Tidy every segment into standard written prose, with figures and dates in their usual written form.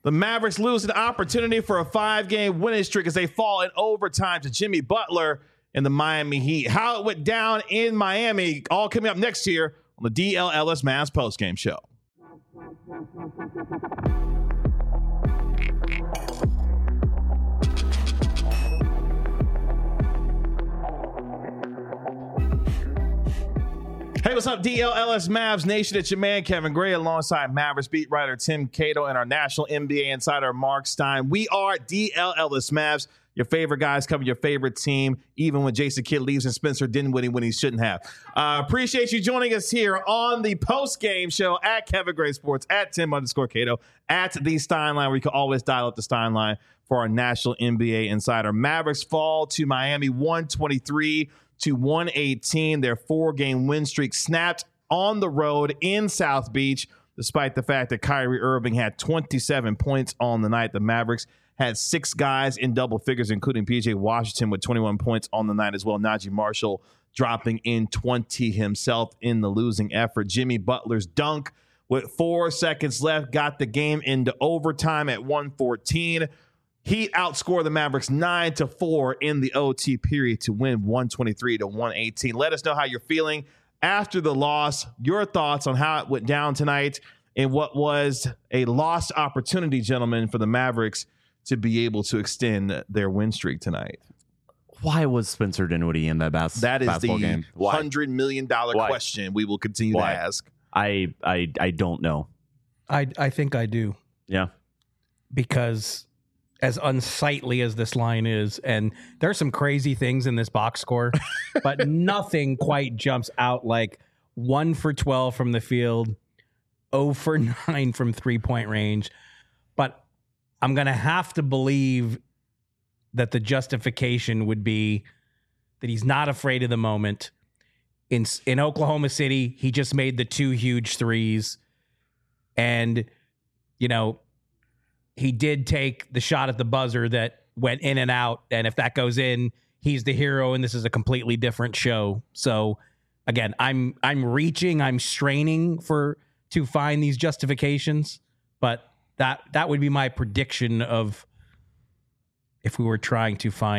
The Mavericks lose an opportunity for a 5-game winning streak as they fall in overtime to Jimmy Butler and the Miami Heat. How it went down in Miami, all coming up next year on the DLLS Mavs postgame show. Hey, what's up, DLLS Mavs Nation? It's your man, Kevin Gray, alongside Mavericks beat writer Tim Cato and our national NBA insider, Mark Stein. We are DLLS Mavs, your favorite guys covering your favorite team, even when Jason Kidd leaves and Spencer Dinwiddie when he shouldn't have. Appreciate you joining us here on the post-game show at Kevin Gray Sports, at Tim_Cato, at the Stein Line, where you can always dial up the Stein Line for our national NBA insider. Mavericks fall to Miami 123-118. Their 4-game win streak snapped on the road in South Beach, despite the fact that Kyrie Irving had 27 points on the night. The Mavericks had 6 guys in double figures, including PJ Washington with 21 points on the night as well. Najee Marshall dropping in 20 himself in the losing effort. Jimmy Butler's dunk with 4 seconds left got the game into overtime at 114. Heat outscored the Mavericks 9-4 in the OT period to win 123-118. Let us know how you're feeling after the loss, your thoughts on how it went down tonight, and what was a lost opportunity, gentlemen, for the Mavericks to be able to extend their win streak tonight. Why was Spencer Dinwiddie in that basketball game? $100 million question we will continue to ask. I don't know. I think I do. Yeah. Because as unsightly as this line is, and there's some crazy things in this box score, but nothing quite jumps out like 1 for 12 from the field, 0 for 9 from 3-point range. But I'm going to have to believe that the justification would be that he's not afraid of the moment. In Oklahoma City, he just made the 2 huge threes. And, you know, he did take the shot at the buzzer that went in and out. And if that goes in, he's the hero, and this is a completely different show. So, again, I'm reaching, I'm straining to find these justifications, but that would be my prediction of if we were trying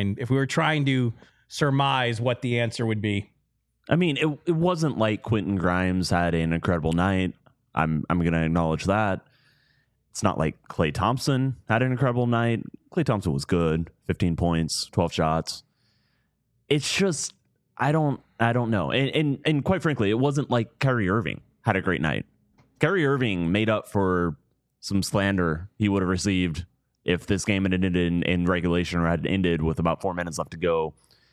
to surmise what the answer would be. I mean, it wasn't like Quentin Grimes had an incredible night. I'm going to acknowledge that. It's not like Klay Thompson had an incredible night. Klay Thompson was good, 15 points, 12 shots. It's just I don't know. And quite frankly, it wasn't like Kyrie Irving had a great night. Kyrie Irving made up for some slander he would have received if this game had ended in regulation or had ended with about 4 minutes left to go.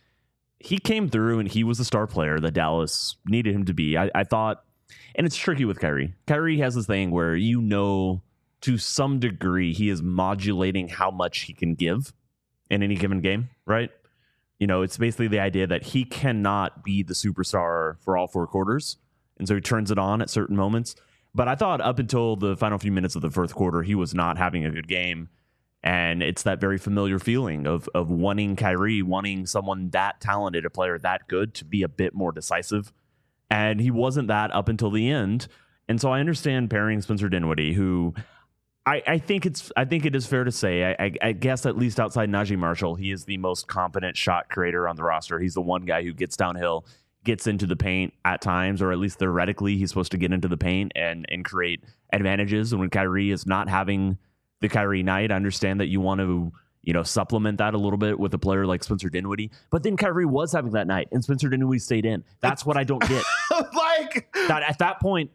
He came through and he was the star player that Dallas needed him to be. I thought, and it's tricky with Kyrie. Kyrie has this thing where, you know, to some degree, he is modulating how much he can give in any given game, right? You know, it's basically the idea that he cannot be the superstar for all 4 quarters. And so he turns it on at certain moments. But I thought up until the final few minutes of the fourth quarter, he was not having a good game. And it's that very familiar feeling of wanting Kyrie, wanting someone that talented, a player that good, to be a bit more decisive. And he wasn't that up until the end. And so I understand pairing Spencer Dinwiddie, who I think it is fair to say, I guess at least outside Najee Marshall, he is the most competent shot creator on the roster. He's the one guy who gets downhill, gets into the paint at times, or at least theoretically, he's supposed to get into the paint and create advantages. And when Kyrie is not having the Kyrie night, I understand that you want to, you know, supplement that a little bit with a player like Spencer Dinwiddie. But then Kyrie was having that night, and Spencer Dinwiddie stayed in. That's what I don't get. Like that at that point,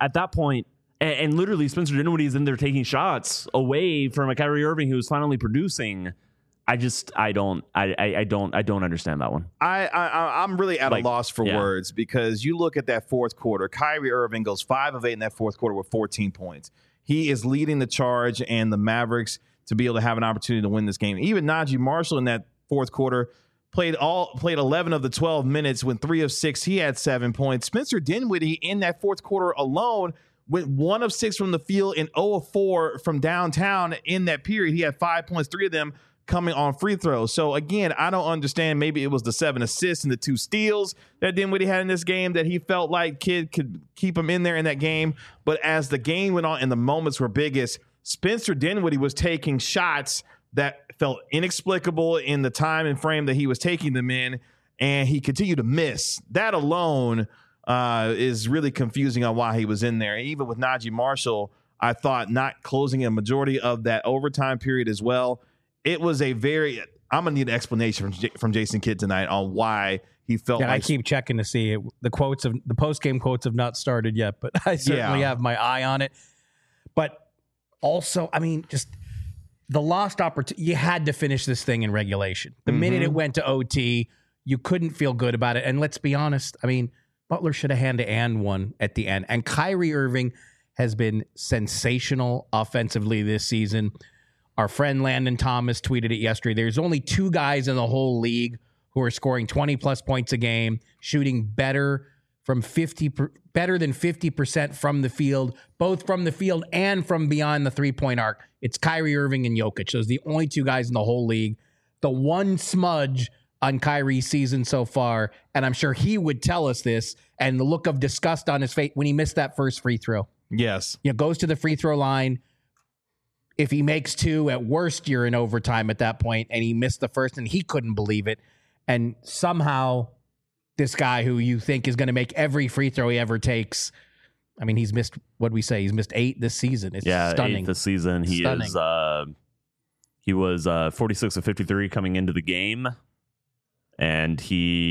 and literally Spencer Dinwiddie is in there taking shots away from a Kyrie Irving who's finally producing. I don't understand that one. I'm really at a loss for words, because you look at that fourth quarter. Kyrie Irving goes 5 of 8 in that fourth quarter with 14 points. He is leading the charge, and the Mavericks to be able to have an opportunity to win this game. Even Najee Marshall in that fourth quarter played 11 of the 12 minutes, went 3 of 6. He had 7 points. Spencer Dinwiddie in that fourth quarter alone went 1 of 6 from the field and 0 of 4 from downtown in that period. He had 5 points, 3 of them coming on free throws. So again, I don't understand. Maybe it was the 7 assists and the 2 steals that Dinwiddie had in this game that he felt like Kidd could keep him in there in that game. But as the game went on and the moments were biggest, Spencer Dinwiddie was taking shots that felt inexplicable in the time and frame that he was taking them in, and he continued to miss. That alone is really confusing on why he was in there. Even with Najee Marshall, I thought not closing a majority of that overtime period as well. It was a very – I'm going to need an explanation from Jason Kidd tonight on why he felt like – I keep checking to see it. The post-game quotes have not started yet, but I certainly have my eye on it. But also, I mean, just the lost opportunity. You had to finish this thing in regulation. The minute it went to OT, you couldn't feel good about it. And let's be honest, I mean, Butler should have hand-to-hand one at the end. And Kyrie Irving has been sensational offensively this season. Our friend Landon Thomas tweeted it yesterday. There's only 2 guys in the whole league who are scoring 20-plus points a game, shooting better than 50% from the field, both from the field and from beyond the three-point arc. It's Kyrie Irving and Jokic. Those are the only 2 guys in the whole league. The one smudge on Kyrie's season so far, and I'm sure he would tell us this, and the look of disgust on his face when he missed that first free throw. Yes. Goes to the free throw line. If he makes 2, at worst, you're in overtime at that point, and he missed the first, and he couldn't believe it. And somehow this guy who you think is going to make every free throw he ever takes, I mean, he's missed, what we say, he's missed 8 this season. It's stunning. 8 this season. He was 46 of 53 coming into the game, and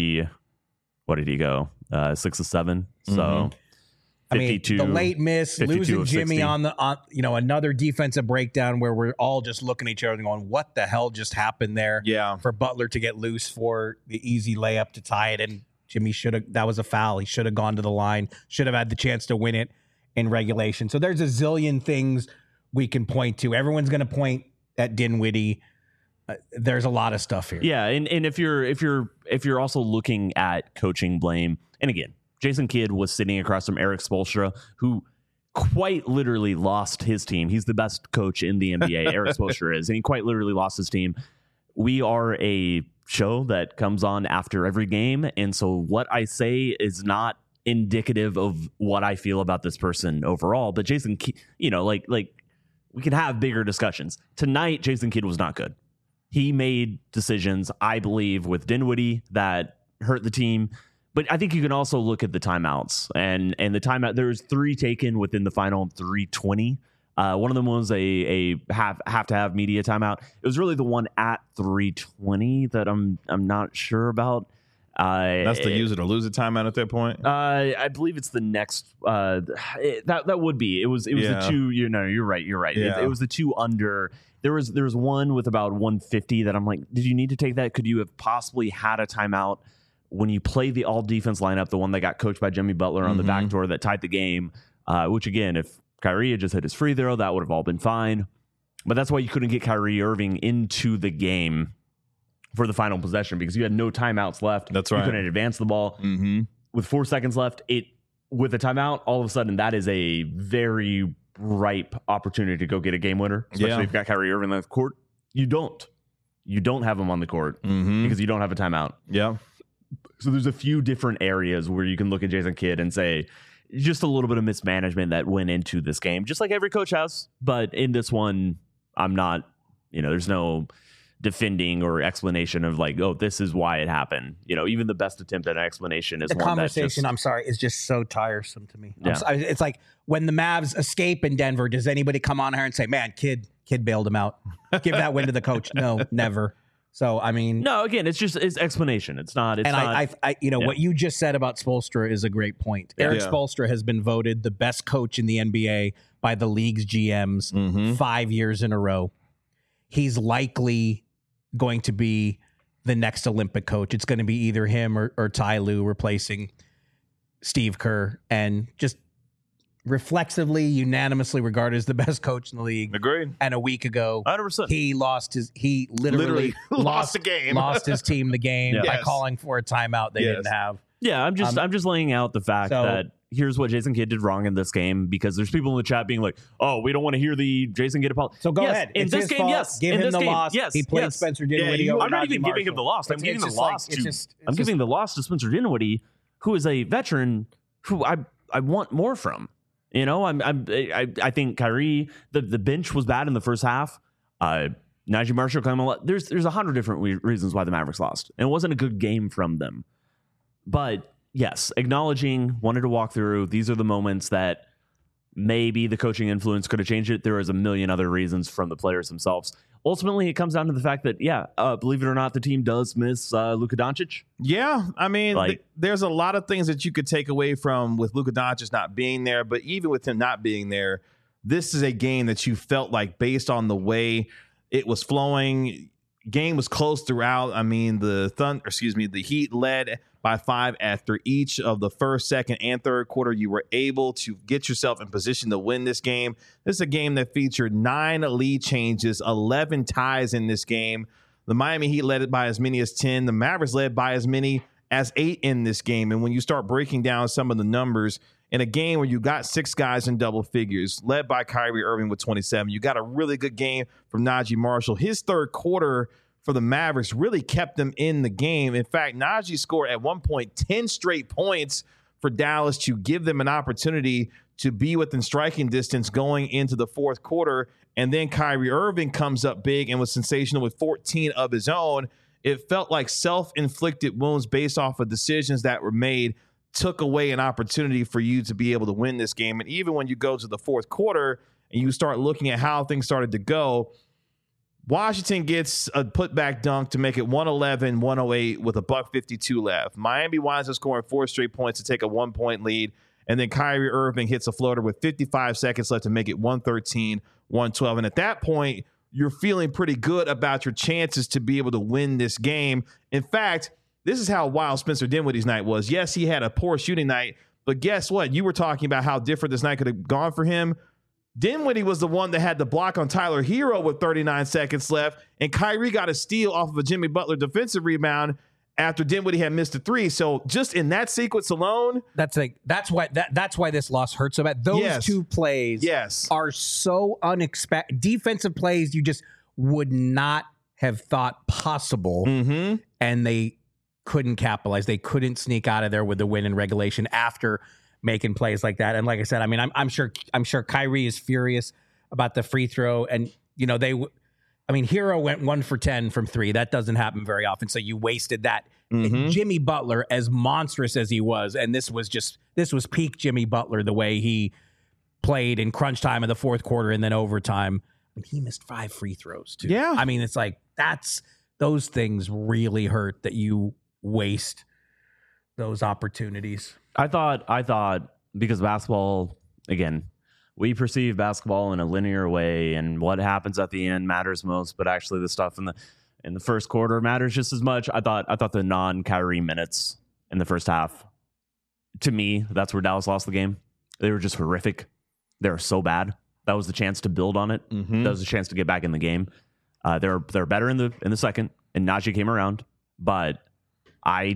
what did he go? 6 of 7. So 52. I mean, the late miss, losing Jimmy on another defensive breakdown where we're all just looking at each other and going, what the hell just happened there? Yeah. For Butler to get loose for the easy layup to tie it. And Jimmy that was a foul. He should have gone to the line, should have had the chance to win it in regulation. So there's a zillion things we can point to. Everyone's going to point at Dinwiddie. There's a lot of stuff here. Yeah. And if you're also looking at coaching blame, and again, Jason Kidd was sitting across from Eric Spoelstra, who quite literally lost his team. He's the best coach in the NBA, Eric Spoelstra is, and he quite literally lost his team. We are a show that comes on after every game, and so what I say is not indicative of what I feel about this person overall. But Jason Kidd, like we can have bigger discussions. Tonight, Jason Kidd was not good. He made decisions, I believe, with Dinwiddie that hurt the team. But I think you can also look at the timeouts and the timeout. There's 3 taken within the final 3:20. One of them was a have to have media timeout. It was really the one at 3:20 that I'm not sure about. That's the use it or lose it timeout at that point. I believe it's the next. That would be. It was the 2. You're right. Yeah. It was the 2 under. There was one with about 150 that I'm like, did you need to take that? Could you have possibly had a timeout? When you play the all-defense lineup, the one that got coached by Jimmy Butler on the backdoor that tied the game, which, again, if Kyrie had just hit his free throw, that would have all been fine. But that's why you couldn't get Kyrie Irving into the game for the final possession, because you had no timeouts left. That's right. You couldn't advance the ball. With 4 seconds left, with a timeout, all of a sudden, that is a very ripe opportunity to go get a game winner, especially if you've got Kyrie Irving on the court. You don't have him on the court because you don't have a timeout. Yeah. So there's a few different areas where you can look at Jason Kidd and say just a little bit of mismanagement that went into this game, just like every coach has. But in this one, I'm not, there's no defending or explanation of like, oh, this is why it happened. Even the best attempt at an explanation is the one conversation. that I'm sorry, is just so tiresome to me. Yeah. It's like when the Mavs escape in Denver, does anybody come on here and say, man, Kidd bailed him out? Give that win to the coach. No, never. So, I mean, no, again, it's explanation. It's not. What you just said about Spoelstra is a great point. Eric Spoelstra has been voted the best coach in the NBA by the league's GMs 5 years in a row. He's likely going to be the next Olympic coach. It's going to be either him or Ty Lue replacing Steve Kerr, and just reflexively, unanimously regarded as the best coach in the league. Agreed. And a week ago, 100%. He literally lost the game. Lost his team the game by calling for a timeout they didn't have. Yeah, I'm just laying out the fact that here's what Jason Kidd did wrong in this game, because there's people in the chat being like, oh, we don't want to hear the Jason Kidd apology. So go ahead. In this game, yes. Give him the loss. Yes. He played Spencer Dinwiddie. I'm not even giving him the loss. I'm giving the loss to Spencer Dinwiddie, who is a veteran who I want more from. You know, I think Kyrie, the bench was bad in the first half. Najee Marshall coming. There's 100 different reasons why the Mavericks lost. And it wasn't a good game from them. But yes, acknowledging, wanted to walk through. These are the moments that maybe the coaching influence could have changed it. There is a million other reasons from the players themselves. Ultimately, it comes down to the fact that, believe it or not, the team does miss Luka Doncic. Yeah, I mean, there's a lot of things that you could take away from with Luka Doncic not being there. But even with him not being there, this is a game that you felt like, based on the way it was flowing, game was close throughout. I mean, the Heat led by 5 after each of the first, second, and third quarter. You were able to get yourself in position to win this game. This is a game that featured 9 lead changes, 11 ties in this game. The Miami Heat led it by as many as 10. The Mavericks led by as many as 8 in this game. And when you start breaking down some of the numbers, in a game where you got 6 guys in double figures, led by Kyrie Irving with 27, you got a really good game from Najee Marshall. His third quarter for the Mavericks really kept them in the game. In fact, Najee scored at one point 10 straight points for Dallas to give them an opportunity to be within striking distance going into the fourth quarter. And then Kyrie Irving comes up big and was sensational with 14 of his own. It felt like self-inflicted wounds based off of decisions that were made took away an opportunity for you to be able to win this game. And even when you go to the fourth quarter and you start looking at how things started to go, Washington gets a putback dunk to make it 111-108 with $1:52 left. Miami winds up scoring 4 straight points to take a 1-point lead. And then Kyrie Irving hits a floater with 55 seconds left to make it 113-112. And at that point, you're feeling pretty good about your chances to be able to win this game. In fact, this is how wild Spencer Dinwiddie's night was. Yes, he had a poor shooting night, but guess what? You were talking about how different this night could have gone for him. Dinwiddie was the one that had the block on Tyler Hero with 39 seconds left, and Kyrie got a steal off of a Jimmy Butler defensive rebound after Dinwiddie had missed a 3. So just in that sequence alone, that's why this loss hurts so bad. Those 2 plays are so unexpected. Defensive plays you just would not have thought possible, and they couldn't capitalize. They couldn't sneak out of there with the win in regulation after making plays like that. And like I said, I mean, I'm sure Kyrie is furious about the free throw. And Hero went 1 for 10 from 3. That doesn't happen very often. So you wasted that. Jimmy Butler, as monstrous as he was, and this was peak Jimmy Butler, the way he played in crunch time in the fourth quarter and then overtime. I mean, he missed 5 free throws too. Yeah. I mean, it's like those things really hurt that you waste those opportunities. I thought because basketball, again, we perceive basketball in a linear way, and what happens at the end matters most, but actually the stuff in the first quarter matters just as much. I thought the non-Kyrie minutes in the first half, to me, that's where Dallas lost the game. They were just horrific. They were so bad. That was the chance to build on it. That was the chance to get back in the game. They're better in the second, and Najee came around, but I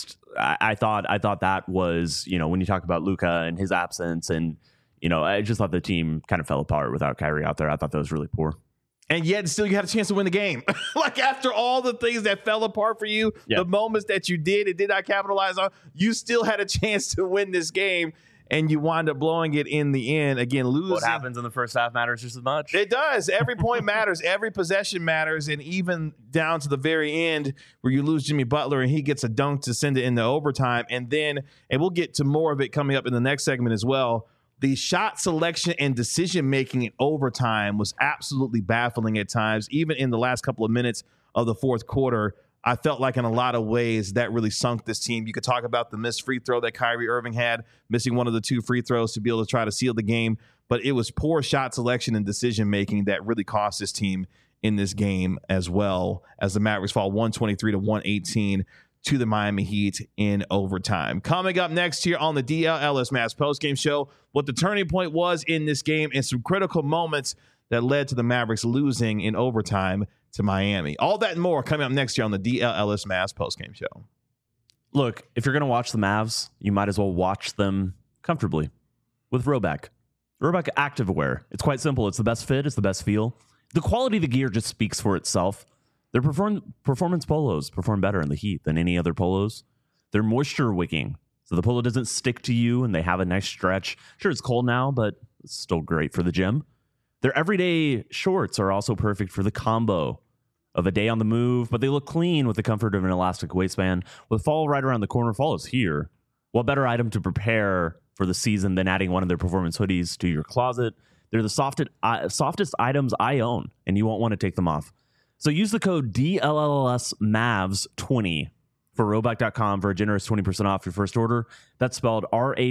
thought that was, when you talk about Luka and his absence, and, I just thought the team kind of fell apart without Kyrie out there. I thought that was really poor. And yet still you had a chance to win the game. Like after all the things that fell apart for you, the moments that you did not capitalize on, you still had a chance to win this game. And you wind up blowing it in the end. Again, losing. What happens in the first half matters just as much. It does. Every point matters. Every possession matters. And even down to the very end where you lose Jimmy Butler and he gets a dunk to send it into overtime. And we'll get to more of it coming up in the next segment as well. The shot selection and decision making in overtime was absolutely baffling at times. Even in the last couple of minutes of the fourth quarter, I felt like in a lot of ways that really sunk this team. You could talk about the missed free throw that Kyrie Irving had, missing one of the 2 free throws to be able to try to seal the game. But it was poor shot selection and decision-making that really cost this team in this game, as well as the Mavericks fall 123-118 to the Miami Heat in overtime. Coming up next here on the DLLS Mavs postgame show, what the turning point was in this game and some critical moments that led to the Mavericks losing in overtime to Miami. All that and more coming up next year on the DLLS Mavs postgame show. Look, if you're going to watch the Mavs, you might as well watch them comfortably with Rhoback. Rhoback Activewear. It's quite simple. It's the best fit. It's the best feel. The quality of the gear just speaks for itself. Their performance polos perform better in the heat than any other polos. They're moisture wicking, so the polo doesn't stick to you and they have a nice stretch. Sure, it's cold now, but it's still great for the gym. Their everyday shorts are also perfect for the combo of a day on the move, but they look clean with the comfort of an elastic waistband. With fall right around the corner, fall is here. What better item to prepare for the season than adding one of their performance hoodies to your closet? They're the softest items I own, and you won't want to take them off. So use the code DLLSMAVS20 for Roback.com for a generous 20% off your first order. That's spelled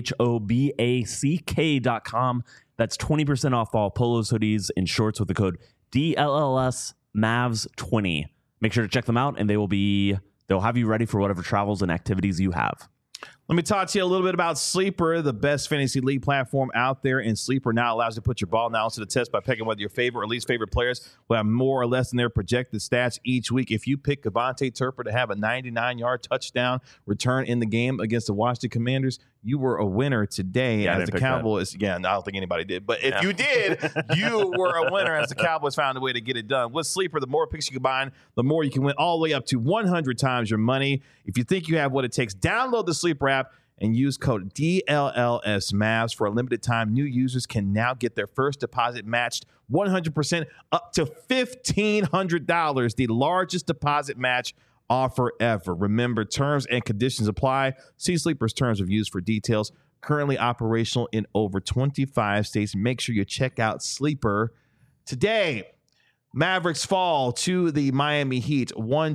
RHOBACK.com. That's 20% off all polos, hoodies, and shorts with the code DLLSMAVS20. Make sure to check them out, and they'll have you ready for whatever travels and activities you have. Let me talk to you a little bit about Sleeper, the best fantasy league platform out there. And Sleeper now allows you to put your ball analysis to the test by picking whether your favorite or least favorite players will have more or less than their projected stats each week. If you pick Devontae Turpin to have a 99-yard touchdown return in the game against the Washington Commanders, you were a winner today. Yeah, as the Cowboys, I don't think anybody did. But if you did, you were a winner as the Cowboys found a way to get it done. With Sleeper, the more picks you combine, the more you can win, all the way up to 100 times your money. If you think you have what it takes, download the Sleeper app and use code DLLSMAVS. For a limited time, new users can now get their first deposit matched 100% up to $1,500, the largest deposit match offer ever. Remember, terms and conditions apply. See Sleeper's terms of use for details. Currently operational in over 25 states. Make sure you check out Sleeper today. Mavericks fall to the Miami Heat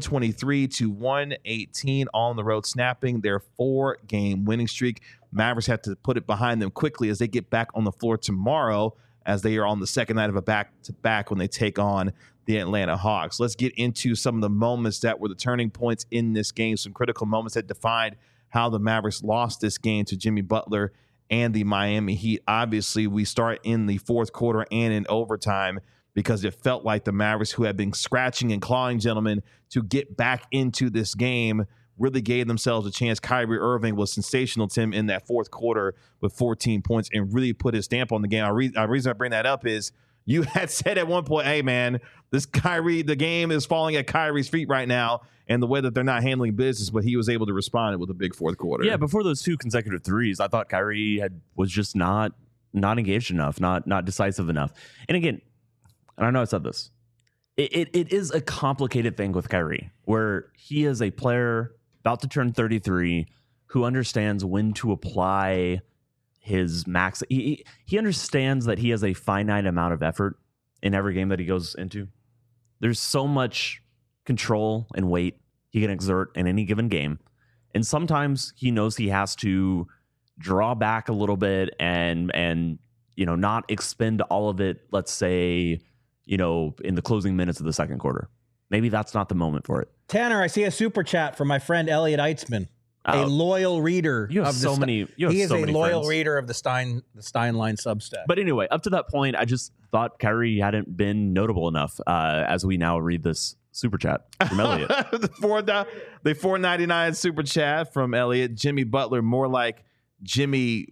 123-118 on the road, snapping their 4-game winning streak. Mavericks have to put it behind them quickly as they get back on the floor tomorrow, as they are on the second night of a back-to-back when they take on the Atlanta Hawks. Let's get into some of the moments that were the turning points in this game, some critical moments that defined how the Mavericks lost this game to Jimmy Butler and the Miami Heat. Obviously, we start in the fourth quarter and in overtime, because it felt like the Mavericks, who had been scratching and clawing, gentlemen, to get back into this game, really gave themselves a chance. Kyrie Irving was sensational, Tim, in that fourth quarter with 14 points and really put his stamp on the game. The reason I bring that up is you had said at one point, hey, man, the game is falling at Kyrie's feet right now, and the way that they're not handling business, but he was able to respond with a big fourth quarter. Yeah, before those 2 consecutive threes, I thought Kyrie was just not engaged enough, not decisive enough. And again, and I know I said this, it is a complicated thing with Kyrie, where he is a player about to turn 33 who understands when to apply his max. He understands that he has a finite amount of effort in every game that he goes into. There's so much control and weight he can exert in any given game. And sometimes he knows he has to draw back a little bit and not expend all of it, let's say, in the closing minutes of the second quarter. Maybe that's not the moment for it. Tanner, I see a super chat from my friend Elliot Eitzman, a loyal reader. You have so many. He is a loyal reader of the Steinline Substack. But anyway, up to that point, I just thought Kyrie hadn't been notable enough. As we now read this super chat from Elliot, the $4.99 super chat from Elliot. Jimmy Butler, more like Jimmy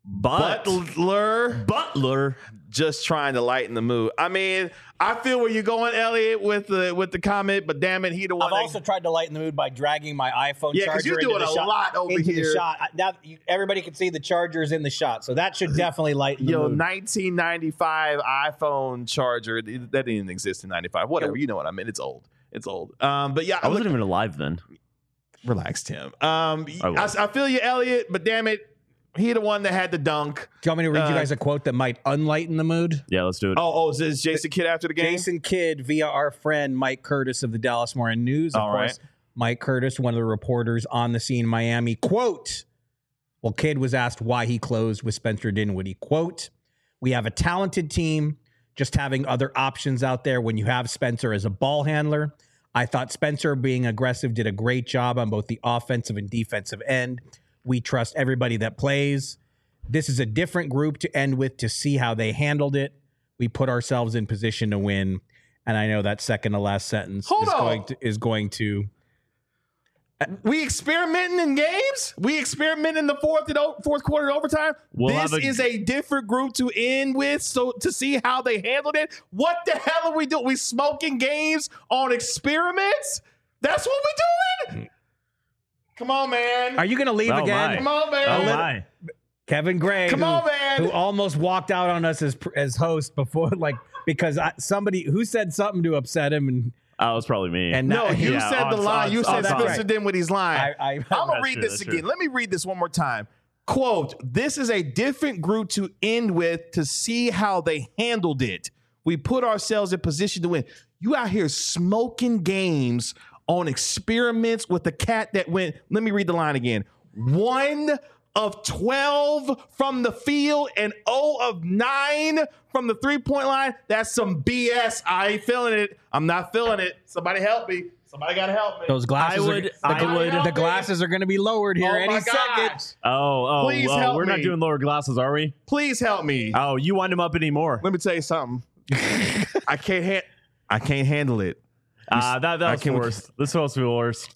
Butler, just trying to lighten the mood. I mean, I feel where you're going, Elliot, with the comment, but damn it, he the one. I've also tried to lighten the mood by dragging my iPhone charger. Yeah, because you're doing a lot over here. The shot. Now everybody can see the chargers in the shot, so that should definitely lighten the mood. 1995 iPhone charger that didn't even exist in '95. Whatever, you know what I mean. It's old. But yeah, I wasn't even alive then. Relax, Tim. I feel you, Elliot, but damn it. He the one that had the dunk. Do you want me to read you guys a quote that might unlighten the mood? Yeah, let's do it. Oh, is this Jason Kidd after the game? Jason Kidd via our friend Mike Curtis of the Dallas Morning News. Of course, Mike Curtis, one of the reporters on the scene in Miami. Quote, well, Kidd was asked why he closed with Spencer Dinwiddie. Quote, we have a talented team. Just having other options out there when you have Spencer as a ball handler. I thought Spencer, being aggressive, did a great job on both the offensive and defensive end. We trust everybody that plays. This is a different group to end with to see how they handled it. We put ourselves in position to win. And I know that second to last sentence is going to. We experimenting in games? We experiment in the fourth quarter overtime? This is a different group to end with, so to see how they handled it. What the hell are we doing? We smoking games on experiments? That's what we're doing? Come on, man. Are you going to leave Oh, again? my. Come on, man. Oh my! Kevin Gray, Come on, man. who almost walked out on us as host before, like because somebody who said something to upset him, and Oh, it was probably me. No, you Yeah, said the line. You said that's Spencer right. Dinwiddie's line. I'm I'm going to That's read true, this that's again. true. Let me read this one more time. Quote, this is a different group to end with to see how they handled it. We put ourselves in position to win. You out here smoking games on experiments with the cat that went, let me read the line again. 1 of 12 from the field and 0 of 9 from the three-point line. That's some BS. I ain't feeling it. I'm not feeling it. Somebody help me. Somebody got to help me. those glasses. The glasses are going to be lowered here Oh any my second. gosh. Please help we're not me. doing lower glasses, are we? Please help me. Oh, you wind them up anymore. Let me tell you something. I can't handle it. That was can't- worse. This is supposed to be worse.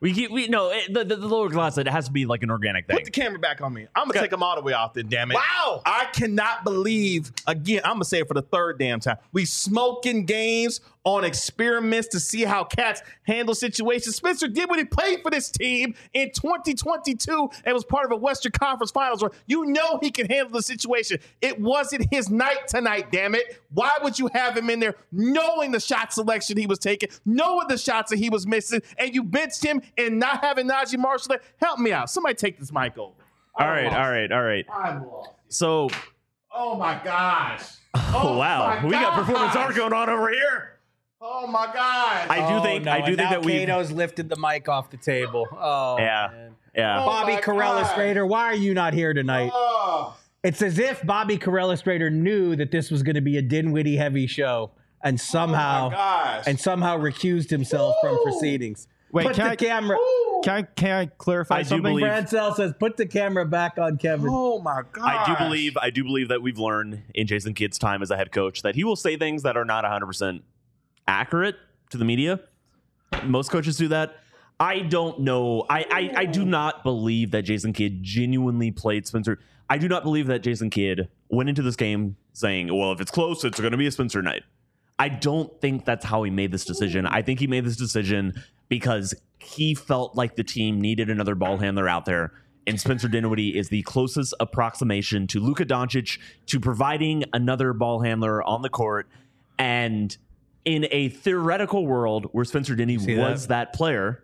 The lower glass, it has to be like an organic thing. Put the camera back on me. I'm gonna take them all the way off. Then, damn it! Wow. I cannot believe. Again, I'm gonna say it for the third damn time. We smoking games on experiments to see how cats handle situations. Spencer Dinwiddie played for this team in 2022 and was part of a Western Conference Finals where you know he can handle the situation. It wasn't his night tonight, damn it. Why would you have him in there knowing the shot selection he was taking, knowing the shots that he was missing, and you benched him and not having Najee Marshall there? Help me out. Somebody take this mic over. All right. I'm lost. So, Oh my gosh. oh wow, my we got performance gosh. art going on over here. Oh my gosh. I do think that we. Kato's lifted the mic off the table. Oh, Yeah. man. Yeah. Oh, Bobby my Carella God. Strader, why are you not here tonight? Oh. It's as if Bobby Carella Strader knew that this was going to be a Dinwiddie heavy show, and somehow Oh my gosh. recused himself from proceedings. Wait, Put can the I- camera. Can I clarify I do something? believe- Francel says, "Put the camera back on Kevin." Oh my gosh. I do believe that we've learned in Jason Kidd's time as a head coach that he will say things that are not 100% accurate to the media. Most coaches do that. I don't know. I do not believe that Jason Kidd genuinely played Spencer. I do not believe that Jason Kidd went into this game saying, well, if it's close, it's going to be a Spencer night. I don't think that's how he made this decision. I think he made this decision because he felt like the team needed another ball handler out there. And Spencer Dinwiddie is the closest approximation to Luka Doncic to providing another ball handler on the court. And in a theoretical world where Spencer Dinwiddie was that player,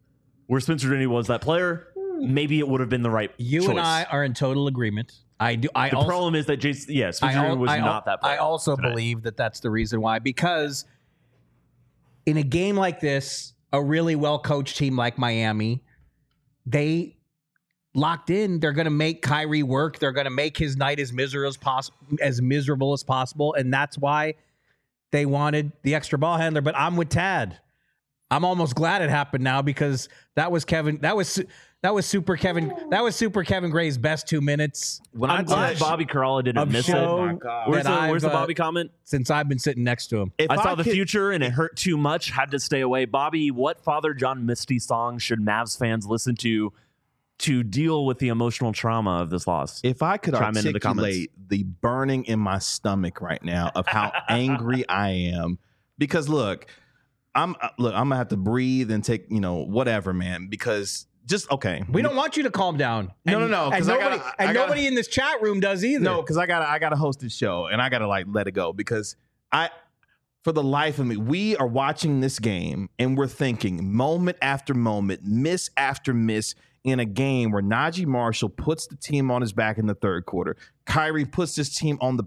maybe it would have been the right You choice. and I are in total agreement. The The problem is that Spencer Dinwiddie was not that player. I also tonight. believe that that's the reason why. Because in a game like this, a really well-coached team like Miami, they locked in. They're going to make Kyrie work. They're going to make his night as miserable as possible, and that's why they wanted the extra ball handler. But I'm with Tad. I'm almost glad it happened now because that was Kevin. That was super Kevin. That was super Kevin Gray's best 2 minutes. I'm glad Bobby Carella didn't miss it. show Where's that the I've, Bobby comment? Since I've been sitting next to him. If I saw the could- future and it hurt too much. Had to stay away. Bobby, what Father John Misty song should Mavs fans listen to deal with the emotional trauma of this loss? If I could Chime into the comments. articulate the burning in my stomach right now of how angry I am, because look, I'm gonna have to breathe and take whatever, man. Because just okay, We don't want you to calm down. No, And- no, And 'cause I nobody, gotta- and I gotta- nobody in this chat room does either. No, because I gotta host this show and I gotta let it go because for the life of me, we are watching this game and we're thinking moment after moment, miss after miss in a game where Najee Marshall puts the team on his back in the third quarter. Kyrie puts his team on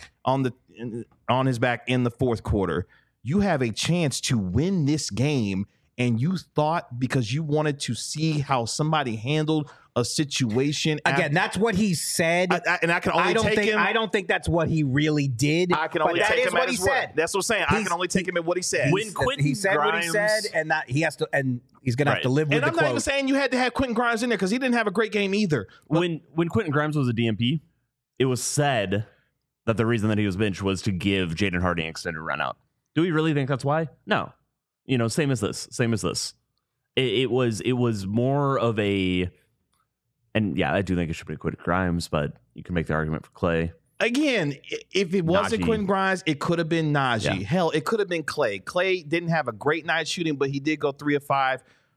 his back in the fourth quarter. You have a chance to win this game. And you thought because you wanted to see how somebody handled a situation. Again, that's what he said. And I can only take him. I don't think that's what he really did. I can only but take that is him what at he his word. said. That's what I'm saying. I can only take him at what he said. When Quentin He said what he Grimes- said, and that he has to, and he's going to have to Right. live with And the I'm not even quote. saying you had to have Quentin Grimes in there because he didn't have a great game either. When Quentin Grimes was a DMP, it was said that the reason that he was benched was to give Jaden Hardy an extended run out. Do we really think that's why? No. Same as this. It was more of a, and yeah, I do think it should be Quentin Grimes, but you can make the argument for Clay. Again, if it wasn't Najee. Quentin Grimes, it could have been Najee. Yeah. Hell, it could have been Clay. Clay didn't have a great night shooting, but he did go 3 of 5.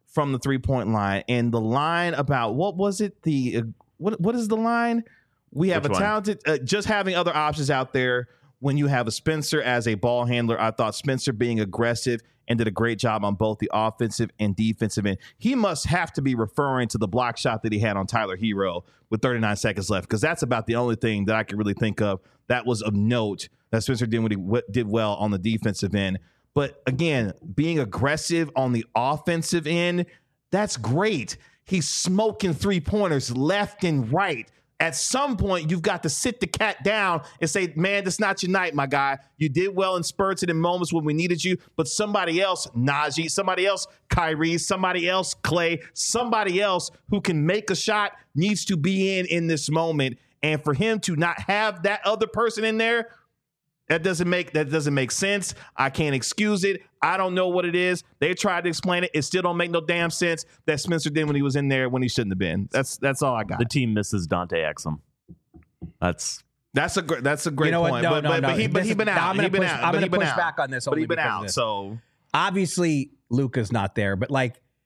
from the 3-point line. And the line about what was it? What is the line? We have Which a one? talented, just having other options out there. When you have a Spencer as a ball handler, I thought Spencer being aggressive and did a great job on both the offensive and defensive end. He must have to be referring to the block shot that he had on Tyler Hero with 39 seconds left, because that's about the only thing that I can really think of that was of note that Spencer Dinwiddie did well on the defensive end. But again, being aggressive on the offensive end, that's great. He's smoking 3-pointers left and right. At some point, you've got to sit the cat down and say, man, that's not your night, my guy. You did well in spurts and in moments when we needed you, but somebody else, Najee, somebody else, Kyrie, somebody else, Clay, somebody else who can make a shot needs to be in this moment. And for him to not have that other person in there, that doesn't make sense. I can't excuse it. I don't know what it is. They tried to explain it. It still don't make no damn sense that Spencer did when he was in there when he shouldn't have been. That's all I got. The team misses Dante Exum. That's a great You know what? point. No, but he's been out. I'm going to push back on this. But only he's been because of out. this. So Obviously, Luka's not there, but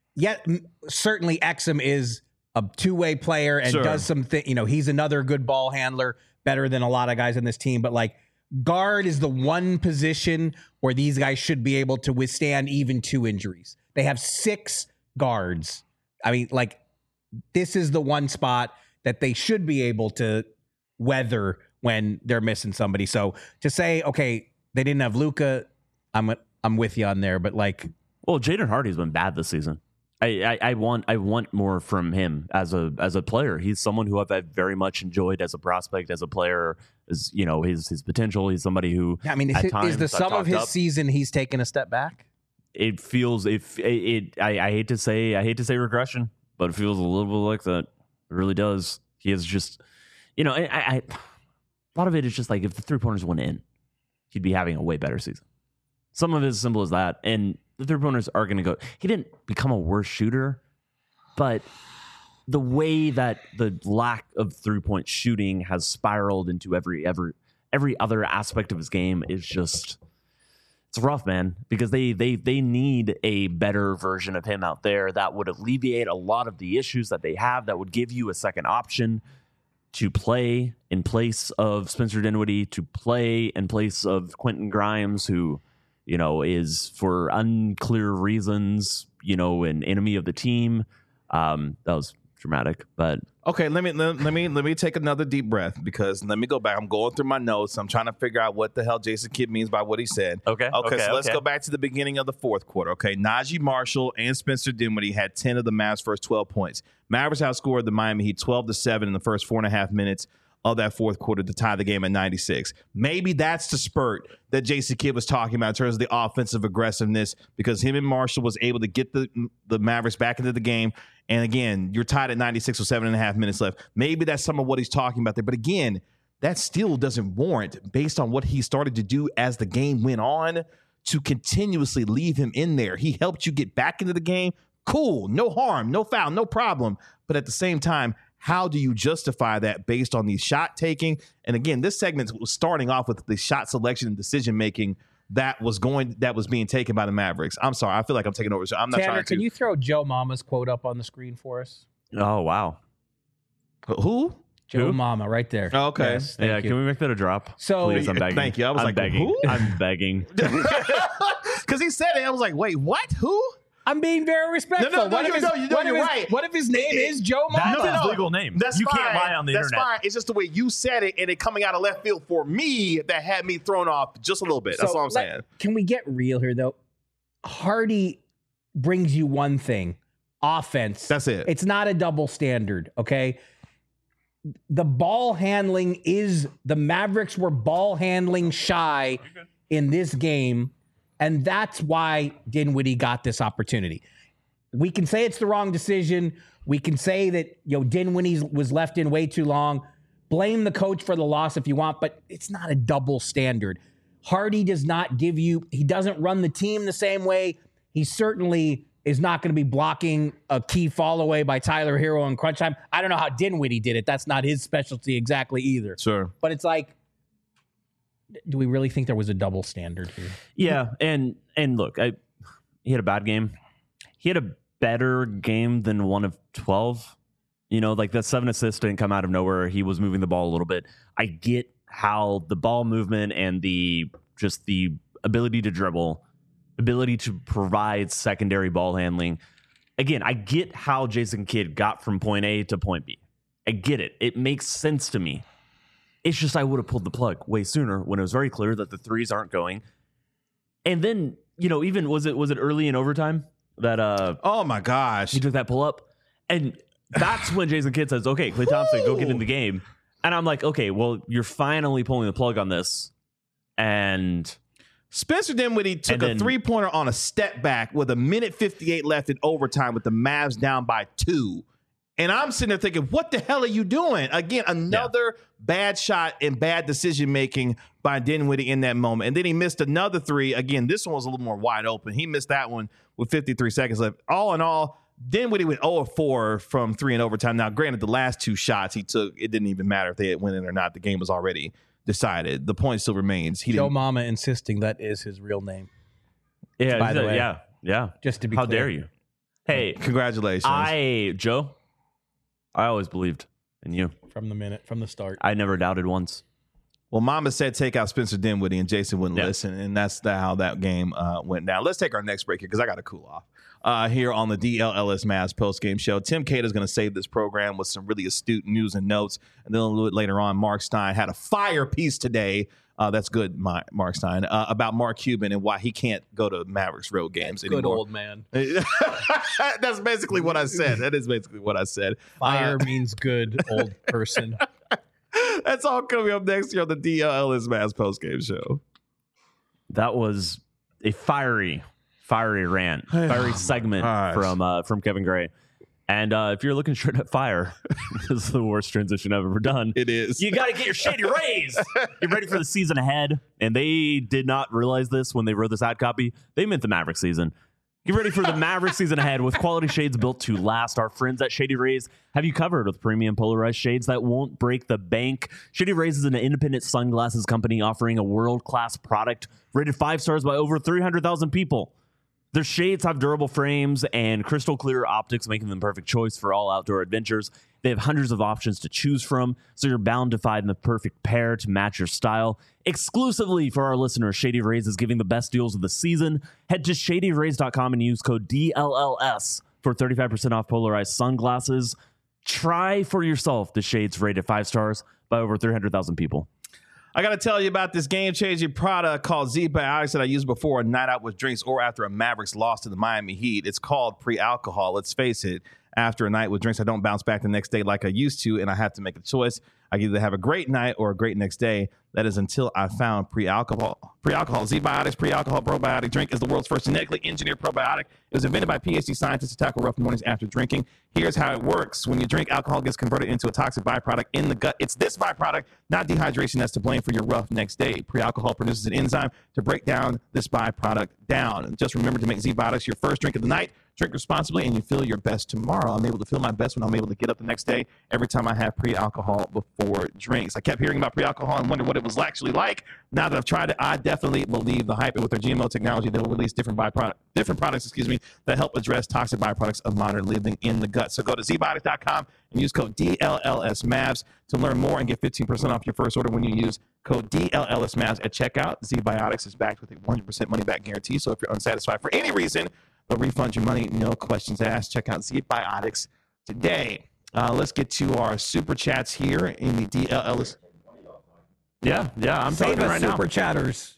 certainly Exum is a two-way player and Sure. does some thing. He's another good ball handler, better than a lot of guys in this team. But guard is the one position where these guys should be able to withstand even 2 injuries. They have 6 guards. I mean, this is the one spot that they should be able to weather when they're missing somebody. So to say, okay, they didn't have Luka, I'm with you on there. But well, Jaden Hardy's been bad this season. I want more from him as a player. He's someone who I've very much enjoyed as a prospect, as a player, as his potential. He's somebody who is the sum of his season he's taken a step back? It feels I hate to say regression, but it feels a little bit like that. It really does. He is just a lot of it is just if the 3-pointers went in, he'd be having a way better season. Some of it is as simple as that, and the 3-pointers are going to go. He didn't become a worse shooter, but the way that the lack of 3-point shooting has spiraled into every other aspect of his game is just, it's rough, man, because they need a better version of him out there that would alleviate a lot of the issues that they have, that would give you a second option to play in place of Spencer Dinwiddie, to play in place of Quentin Grimes, who is for unclear reasons, an enemy of the team. That was dramatic, but okay, let me take another deep breath, because let me go back. I'm going through my notes. I'm trying to figure out what the hell Jason Kidd means by what he said. Okay. So let's go back to the beginning of the fourth quarter. Okay, Najee Marshall and Spencer Dinwiddie had 10 of the Mavs' first 12 points. Mavericks outscored the Miami Heat 12-7 in the first 4.5 minutes of that fourth quarter to tie the game at 96. Maybe that's the spurt that Jason Kidd was talking about in terms of the offensive aggressiveness, because him and Marshall was able to get the Mavericks back into the game. And again, you're tied at 96 with 7.5 minutes left. Maybe that's some of what he's talking about there. But again, that still doesn't warrant, based on what he started to do as the game went on, to continuously leave him in there. He helped you get back into the game. Cool, no harm, no foul, no problem. But at the same time, how do you justify that based on the shot taking? And again, this segment was starting off with the shot selection and decision making that was being taken by the Mavericks. I'm sorry, I feel like I'm taking over. So I'm not Tanner, trying to. Can you throw Joe Mama's quote up on the screen for us? oh wow, Who? Joe Who? Mama, right there. Oh, okay. Yes, thank yeah. you. Can we make that a drop? So- please, I'm begging. Thank you. I was I'm like, begging. who? I'm begging. Because he said it, I was like, wait, what? Who? I'm being very respectful. No, What if you're right. What if his name is Joe Mama? That's his legal name. That's You fine. can't lie on the That's internet. fine. It's just the way you said it, and it coming out of left field for me that had me thrown off just a little bit. That's all I'm saying. Can we get real here, though? Hardy brings you one thing: offense. That's it. It's not a double standard, okay? The ball handling the Mavericks were ball handling shy in this game, and that's why Dinwiddie got this opportunity. We can say it's the wrong decision. We can say that Dinwiddie was left in way too long. Blame the coach for the loss if you want, but it's not a double standard. Hardy does not he doesn't run the team the same way. He certainly is not going to be blocking a key fall away by Tyler Hero in crunch time. I don't know how Dinwiddie did it. That's not his specialty exactly either. Sure. But it's like, do we really think there was a double standard here? Yeah, and look, he had a bad game. He had a better game than 1 of 12. You know, like that 7 assists didn't come out of nowhere. He was moving the ball a little bit. I get how the ball movement and the ability to dribble, ability to provide secondary ball handling. Again, I get how Jason Kidd got from point A to point B. I get it. It makes sense to me. It's just I would have pulled the plug way sooner when it was very clear that the threes aren't going. And then, you know, even was it early in overtime that oh my gosh, he took that pull up, and that's when Jason Kidd says, "Okay, Klay Thompson, go get in the game." And I'm like, "Okay, well, you're finally pulling the plug on this." And Spencer Dinwiddie took a 3-pointer on a step back with 1:58 left in overtime with the Mavs down by 2. And I'm sitting there thinking, what the hell are you doing? Again, another bad shot and bad decision-making by Dinwiddie in that moment. And then he missed another 3. Again, this one was a little more wide open. He missed that one with 53 seconds left. All in all, Dinwiddie went 0 of 4 from 3 in overtime. Now, granted, the last 2 shots he took, it didn't even matter if they had went in or not. The game was already decided. The point still remains. Joe Mama insisting that is his real name. Yeah, by the way. Yeah. Just to be How clear. dare you? Hey, congratulations. Joe, I always believed in you. From the start. I never doubted once. Well, Mama said take out Spencer Dinwiddie, and Jason wouldn't listen, and that's how that game went down. Let's take our next break here because I got to cool off here on the DLLS Mavs postgame show. Tim Cater is going to save this program with some really astute news and notes, and then a little bit later on, Mark Stein had a fire piece today. That's good, Mark Stein, about Mark Cuban and why he can't go to Mavericks road games anymore. Good old man. That's basically what I said. That is basically what I said. Fire means good old person. That's all coming up next here on the DLLS Mavs postgame show. That was a fiery rant, fiery segment from Kevin Gray. And if you're looking straight at fire, this is the worst transition I've ever done. It is. You got to get your Shady Rays. Get ready for the season ahead. And they did not realize this when they wrote this ad copy. They meant the Maverick season. Get ready for the Maverick season ahead with quality shades built to last. Our friends at Shady Rays have you covered with premium polarized shades that won't break the bank. Shady Rays is an independent sunglasses company offering a world-class product rated 5 stars by over 300,000 people. Their shades have durable frames and crystal clear optics, making them the perfect choice for all outdoor adventures. They have hundreds of options to choose from, so you're bound to find the perfect pair to match your style. Exclusively for our listeners, Shady Rays is giving the best deals of the season. Head to shadyrays.com and use code DLLS for 35% off polarized sunglasses. Try for yourself the shades rated 5 stars by over 300,000 people. I got to tell you about this game-changing product called Z-Biotics that I used before a night out with drinks or after a Mavericks loss to the Miami Heat. It's called pre-alcohol. Let's face it, after a night with drinks, I don't bounce back the next day like I used to, and I have to make a choice. I can either have a great night or a great next day. That is until I found pre-alcohol. Pre-alcohol, Z-Biotics pre-alcohol probiotic drink is the world's first genetically engineered probiotic. It was invented by PhD scientists to tackle rough mornings after drinking. Here's how it works. When you drink, alcohol gets converted into a toxic byproduct in the gut. It's this byproduct, not dehydration, that's to blame for your rough next day. Pre-alcohol produces an enzyme to break down this byproduct down. And just remember to make Z-Biotics your first drink of the night. Drink responsibly and you feel your best tomorrow. I'm able to feel my best when I'm able to get up the next day every time I have pre-alcohol before drinks. I kept hearing about pre-alcohol and wondered what it was actually like. Now that I've tried it, I definitely believe the hype. And with their GMO technology, they'll release different products, that help address toxic byproducts of modern living in the gut. So go to zbiotics.com and use code DLLSMAVS to learn more and get 15% off your first order when you use code DLLSMAVS at checkout. Z-Biotics is backed with a 100% money-back guarantee. So if you're unsatisfied for any reason, they'll refund your money, no questions asked. Check out Z-Biotics today. Let's get to our super chats here in the DLLS. Yeah, I'm talking right now. Super chatters.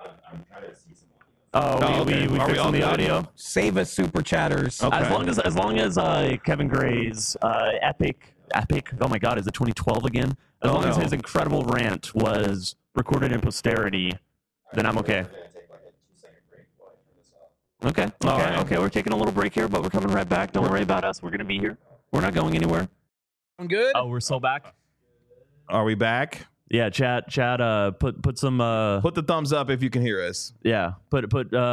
We Are we on the audio? Save us, super chatters. Okay. As long as Kevin Gray's epic. Oh my God, is it 2012 again? As long as his incredible rant was recorded in posterity, then I'm okay. Okay. We're taking a little break here, but we're coming right back. Don't worry about us. We're gonna be here. We're not going anywhere. I'm good. Oh, we're so back. Are we back? Yeah, chat. Put some. Put the thumbs up if you can hear us. Yeah. Put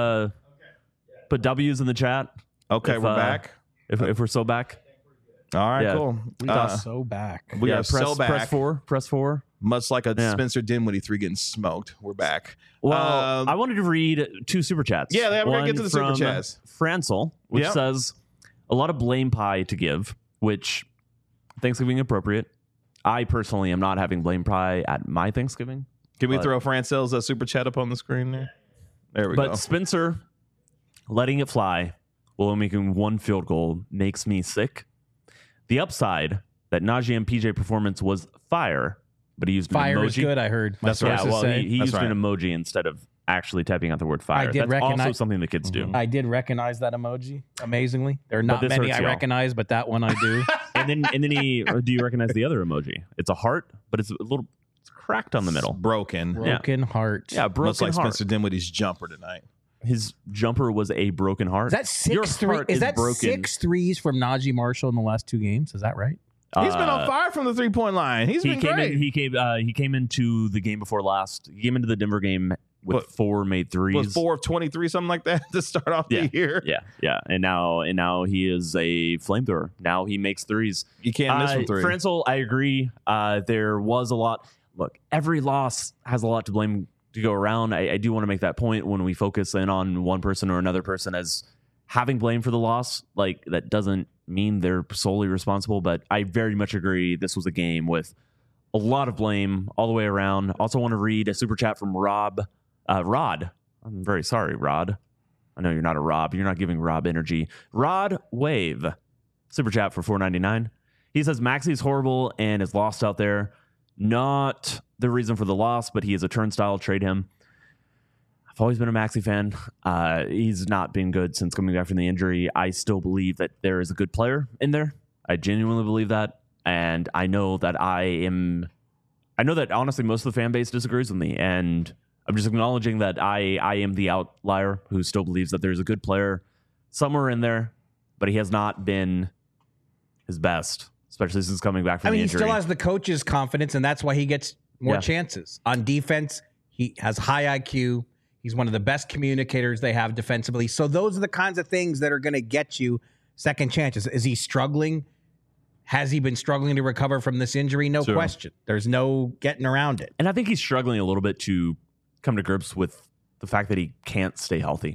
W's in the chat. Okay, we're back. If we're so back. All right, Yeah. cool. We are so back. We are so back. Press 4. Much like a Spencer Dinwiddie 3 getting smoked. We're back. Well, I wanted to read 2 super chats. Yeah, we're going to One get to the super from chats. Francel, which Yep. says, a lot of blame pie to give, which Thanksgiving appropriate. I personally am not having blame pie at my Thanksgiving. Can we throw Francel's super chat up on the screen there? There we go. But Spencer letting it fly while making one field goal makes me sick. The upside that Najee and PJ performance was fire, but he used an Fire emoji. is good, I heard. My That's right. sources Well, say. he That's used right. an emoji instead of actually typing out the word fire. I did That's also recognize- something the kids do. I did recognize that emoji. Amazingly, there are not this many hurts I y'all. recognize, but that one I do. And then do you recognize the other emoji? It's a heart, but it's cracked on the middle. Broken. Broken heart. Yeah, broken Much like heart. Spencer Dinwiddie's jumper tonight. His jumper was a broken heart. Is that Your 6 3? heart Is that broken. 6 threes from Najee Marshall in the last 2 games? Is that right? He's been on fire from the 3-point line. He's been great. He came into the game before last. He came into the Denver game with What? 4 made threes. Was 4 of 23, something like that, to start off the year. Yeah. And now he is a flamethrower. Now he makes threes. You can't miss from 3. Franzel, I agree. There was a lot. Look, every loss has a lot to blame to go around. I do want to make that point when we focus in on one person or another person as having blame for the loss. Like, that doesn't mean they're solely responsible, but I very much agree this was a game with a lot of blame all the way around. Also want to read a super chat from Rod. I'm very sorry, Rod. I know you're not a Rob. You're not giving Rob energy. Rod Wave. Super chat for $4.99. He says Maxey's horrible and is lost out there. Not the reason for the loss, but he is a turnstile. Trade him. I've always been a Maxey fan. He's not been good since coming back from the injury. I still believe that there is a good player in there. I genuinely believe that. And I know that honestly most of the fan base disagrees with me. And I'm just acknowledging that I am the outlier who still believes that there's a good player somewhere in there, but he has not been his best, especially since coming back from the He injury. still has the coach's confidence, and that's why he gets more Yeah. chances. On defense, he has high IQ. He's one of the best communicators they have defensively. So those are the kinds of things that are going to get you second chances. Is he struggling? Has he been struggling to recover from this injury? No Sure. question. There's no getting around it. And I think he's struggling a little bit to come to grips with the fact that he can't stay healthy.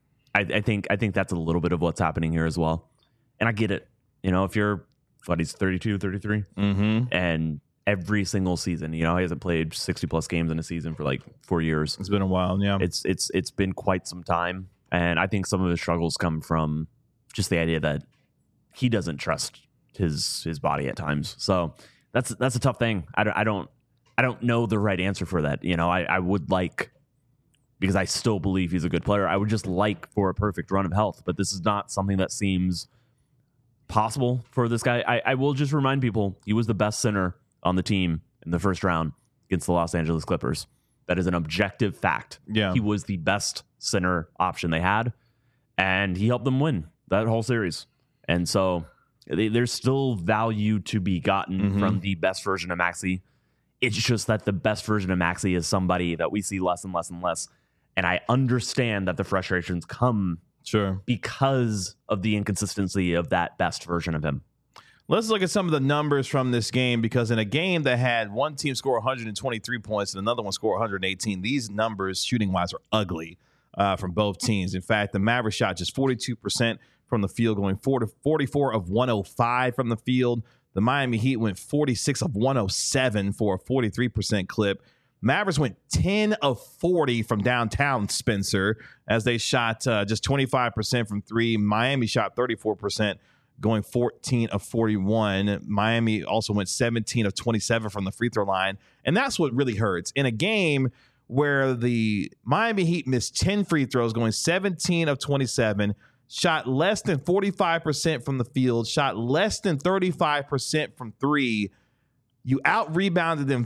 I think that's a little bit of what's happening here as well. And I get it. You know, if you're, he's 32, 33, and every single season, he hasn't played 60 plus games in a season for like 4 years. It's been a while, yeah. It's been quite some time. And I think some of his struggles come from just the idea that he doesn't trust his body at times. So that's a tough thing. I don't know the right answer for that. I would like, because I still believe he's a good player, I would just like for a perfect run of health, but this is not something that seems possible for this guy. I will just remind people, he was the best center on the team in the first round against the Los Angeles Clippers. That is an objective fact. Yeah. He was the best center option they had, and he helped them win that whole series. And so there's still value to be gotten from the best version of Maxey. It's just that the best version of Maxey is somebody that we see less and less and less. And I understand that the frustrations come because of the inconsistency of that best version of him. Let's look at some of the numbers from this game, because in a game that had one team score 123 points and another one score 118, these numbers shooting-wise are ugly from both teams. In fact, the Mavericks shot just 42% from the field, going 44 of 105 from the field. The Miami Heat went 46 of 107 for a 43% clip. Mavericks went 10 of 40 from downtown, Spencer, as they shot just 25% from three. Miami shot 34%, going 14 of 41. Miami also went 17 of 27 from the free throw line. And that's what really hurts. In a game where the Miami Heat missed 10 free throws, going 17 of 27, shot less than 45% from the field, shot less than 35% from three, you out-rebounded them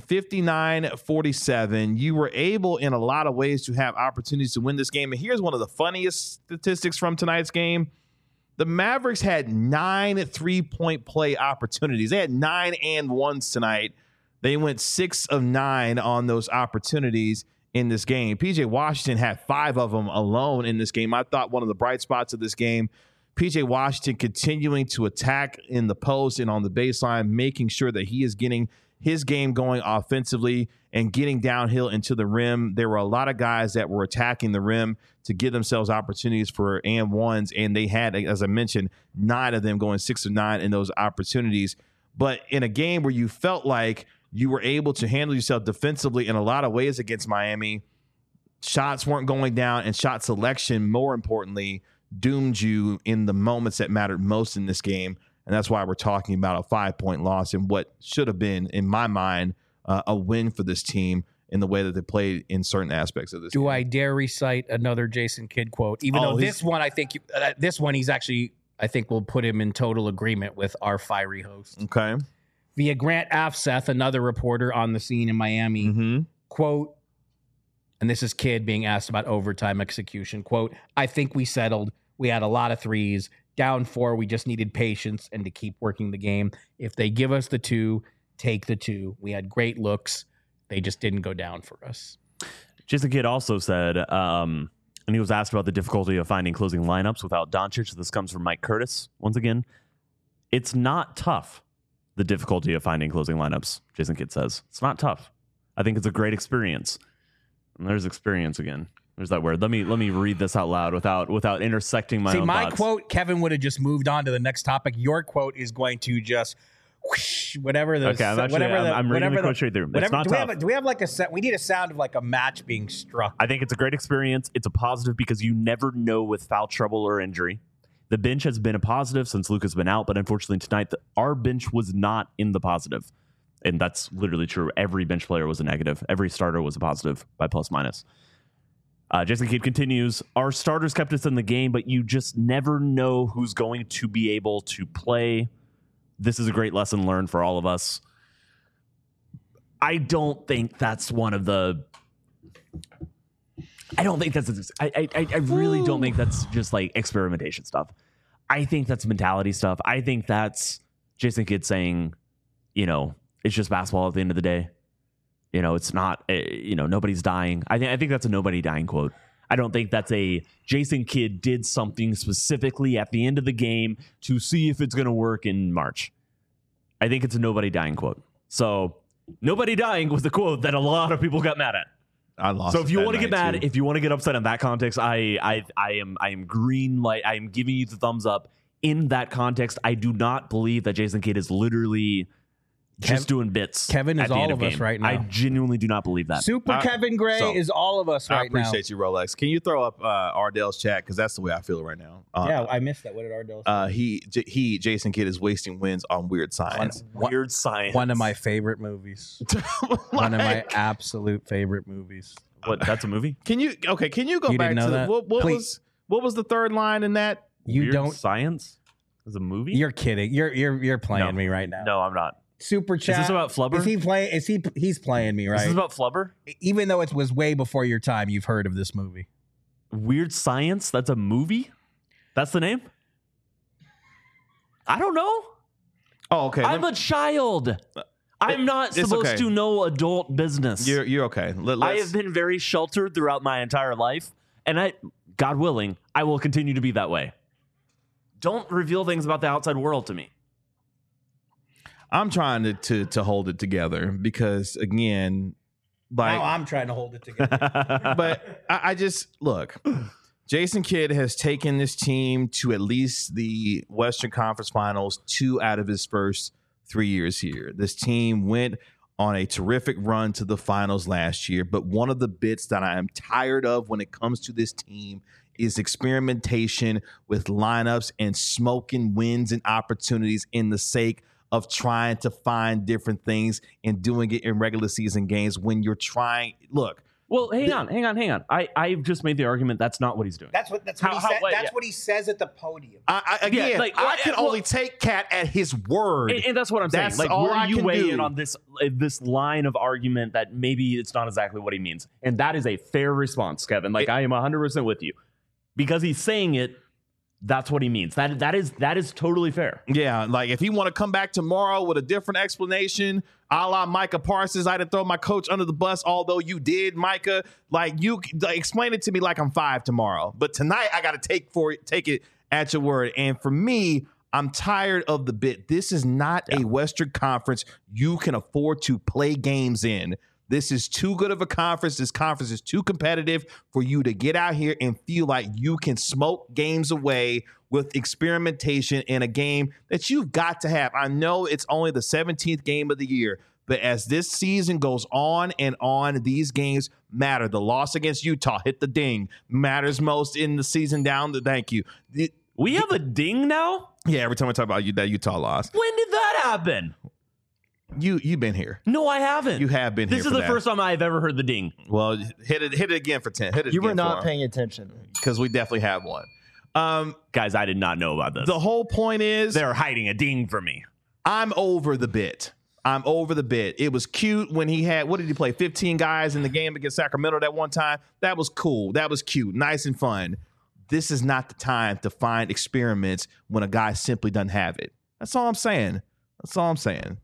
59-47. You were able, in a lot of ways, to have opportunities to win this game. And here's one of the funniest statistics from tonight's game. The Mavericks had 9 3-point play opportunities. They had 9 and 1s tonight. They went 6 of 9 on those opportunities in this game. PJ Washington had 5 of them alone in this game. I thought one of the bright spots of this game, PJ Washington continuing to attack in the post and on the baseline, making sure that he is getting his game going offensively and getting downhill into the rim. There were a lot of guys that were attacking the rim to give themselves opportunities for and ones, and they had, as I mentioned, 9 of them going 6 of 9 in those opportunities. But in a game where you felt like you were able to handle yourself defensively in a lot of ways against Miami, shots weren't going down, and shot selection, more importantly, doomed you in the moments that mattered most in this game. And that's why we're talking about a 5-point loss in what should have been, in my mind, a win for this team in the way that they played in certain aspects of this game. Do I dare recite another Jason Kidd quote? Even though this one, I think he's actually, I think we'll put him in total agreement with our fiery host. Okay. Via Grant Afseth, another reporter on the scene in Miami, quote, and this is Kidd being asked about overtime execution, quote, "I think we settled. We had a lot of threes. Down 4, we just needed patience and to keep working the game. If they give us the 2, take the 2. We had great looks. They just didn't go down for us." Jason Kidd also said, and he was asked about the difficulty of finding closing lineups without Doncic. This comes from Mike Curtis. Once again, it's not tough, the difficulty of finding closing lineups, Jason Kidd says. It's not tough. I think it's a great experience. And there's experience again. There's that word. Let me read this out loud without intersecting my own my thoughts. quote, Kevin would have just moved on to the next topic. Your quote is going to just whoosh, whatever the Okay, I'm reading the quote straight through. It's not tough. Do we have like a set? We need a sound of like a match being struck. I think it's a great experience. It's a positive because you never know with foul trouble or injury. The bench has been a positive since Luka's been out, but unfortunately tonight our bench was not in the positive. And that's literally true. Every bench player was a negative. Every starter was a positive by plus minus. Jason Kidd continues, our starters kept us in the game, but you just never know who's going to be able to play. This is a great lesson learned for all of us. I don't think that's one of the... I don't think that's... I really don't think that's just like experimentation stuff. I think that's mentality stuff. I think that's Jason Kidd saying, it's just basketball at the end of the day. It's not, nobody's dying. I think that's a nobody dying quote. I don't think that's a Jason Kidd did something specifically at the end of the game to see if it's going to work in March. I think it's a nobody dying quote. So nobody dying was the quote that a lot of people got mad at. I lost. So if you want to get mad, too. if you want to get upset in that context, I am green light. I am giving you the thumbs up in that context. I do not believe that Jason Kidd is literally just doing bits. Kevin is all of us right now. I genuinely do not believe that. Super Kevin Gray is all of us right now. I appreciate you, Rolex. Can you throw up Ardell's chat? Because that's the way I feel right now. Yeah, I missed that. What did Ardell say? Jason Kidd is wasting wins on Weird Science. Weird Science. One of my favorite movies. One of my absolute favorite movies. What? That's a movie? Can you go back didn't know to that? what was the third line in that? Weird Science is a movie? You're kidding. You're playing me right now. No, I'm not. Super chat. Is this about Flubber? Is he playing? He's playing me, right? Is this about Flubber? Even though it was way before your time, you've heard of this movie. Weird Science? That's a movie? That's the name? I don't know. Oh, okay. I'm a child. I'm not supposed to know adult business. You're okay. I have been very sheltered throughout my entire life, and God willing, I will continue to be that way. Don't reveal things about the outside world to me. I'm trying to hold it together because, again, now I'm trying to hold it together. But I just look. Jason Kidd has taken this team to at least the Western Conference Finals 2 out of his first 3 years here. This team went on a terrific run to the finals last year, but one of the bits that I am tired of when it comes to this team is experimentation with lineups and smoking wins and opportunities in the sake of trying to find different things and doing it in regular season games when you're trying. Look. Well, hang on. I've just made the argument that's not what he's doing. That's what he says at the podium. I can only take Cat at his word. And that's what I'm saying. Like, all where you weigh do. in on this line of argument that maybe it's not exactly what he means. And that is a fair response, Kevin. Like, I am 100% with you. Because he's saying it, that's what he means. That is totally fair. Yeah, like if he want to come back tomorrow with a different explanation, a la Micah Parsons, I didn't throw my coach under the bus, although you did, Micah. Like you explain it to me like I'm 5 tomorrow, but tonight I got to take it at your word. And for me, I'm tired of the bit. This is not a Western Conference you can afford to play games in. This is too good of a conference. This conference is too competitive for you to get out here and feel like you can smoke games away with experimentation in a game that you've got to have. I know it's only the 17th game of the year, but as this season goes on and on, these games matter. The loss against Utah, hit the ding, matters most in the season down. Thank you. We have a ding now? Yeah, every time I talk about that Utah loss. When did that happen? You've been here. No, I haven't. You have been here. This is the first time I've ever heard the ding. Well, hit it again for 10. Hit it. You were again not paying attention. because we definitely have one. Guys, I did not know about this. The whole point is They're hiding a ding for me. I'm over the bit. It was cute when he had, what did he play? 15 guys in the game against Sacramento that one time. That was cool. That was cute. Nice and fun. This is not the time to find experiments when a guy simply doesn't have it. That's all I'm saying. That's all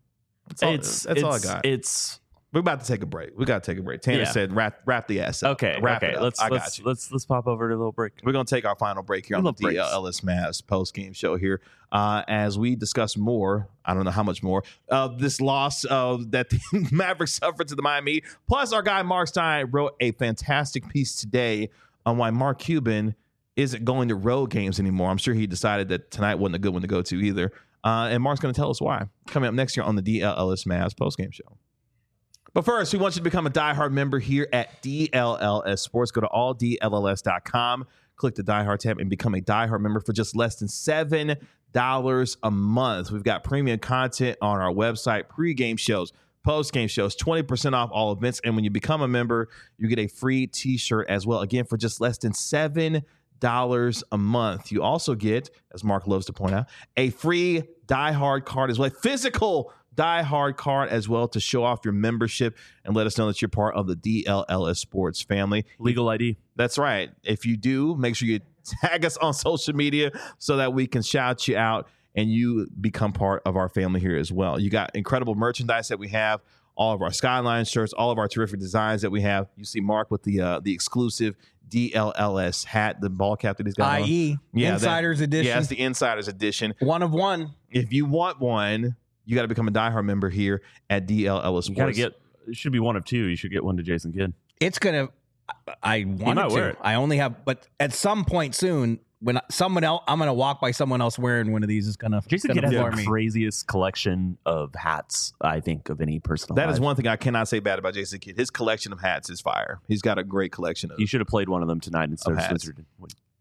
I got. We're about to take a break. We got to take a break. Tanner said, "Wrap the ass up." Okay. Wrap it up. Let's pop over to a little break. We're going to take our final break here on the DLLS Mavs post-game show here as we discuss more, I don't know how much more, of this loss that the Mavericks suffered to the Miami Heat. Plus, our guy Mark Stein wrote a fantastic piece today on why Mark Cuban isn't going to road games anymore. I'm sure he decided that tonight wasn't a good one to go to either. And Mark's going to tell us why. Coming up next year on the DLLS Mavs post-game show. But first, we want you to become a diehard member here at DLLS Sports. Go to alldlls.com, click the diehard tab, and become a diehard member for just less than $7 a month. We've got premium content on our website, pregame shows, post-game shows, 20% off all events. And when you become a member, you get a free t-shirt as well. Again, for just less than $7 a month. You also get, as Mark loves to point out, a free diehard card as well, a physical diehard card as well to show off your membership and let us know that you're part of the DLLS Sports family. Legal ID. That's right. If you do, make sure you tag us on social media so that we can shout you out and you become part of our family here as well. You got incredible merchandise that we have, all of our Skyline shirts, all of our terrific designs that we have. You see Mark with the exclusive DLLS hat, the ball cap that he's got IE, on. Insiders Edition. Yeah, it's the Insiders Edition. One of one. If you want one, you got to become a diehard member here at DLLS Sports. You got to get, it should be one of two. You should get one to Jason Kidd. It's going to, I wanted wear to. it. I only have, but at some point soon, when someone else, I'm going to walk by someone else wearing one of these, is going to Jason Kidd has floor the me. craziest collection of hats, I think, of any person That alive. is one thing I cannot say bad about Jason Kidd. His collection of hats is fire. He's got a great collection of You should have played one of them tonight instead of hats. Switzer.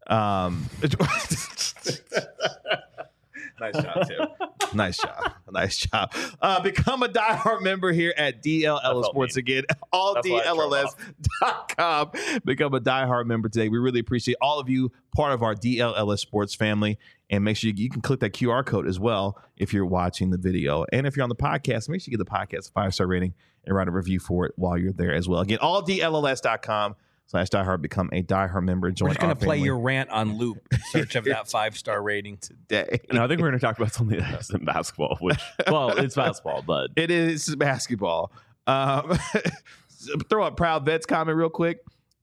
Nice job, Tim. Nice job. Become a diehard member here at DLLS Sports again. AllDLLS.com. Become a diehard member today. We really appreciate all of you, part of our DLLS Sports family. And make sure you can click that QR code as well if you're watching the video. And if you're on the podcast, make sure you give the podcast a 5-star rating and write a review for it while you're there as well. Again, alldlls.com/diehard. Become a diehard member and join We're just going our to play family your rant on loop in search of that 5-star rating. today. No, I think we're going to talk about something that's in basketball, which, well, it's basketball, but It is basketball. Throw up Proud Vets comment real quick.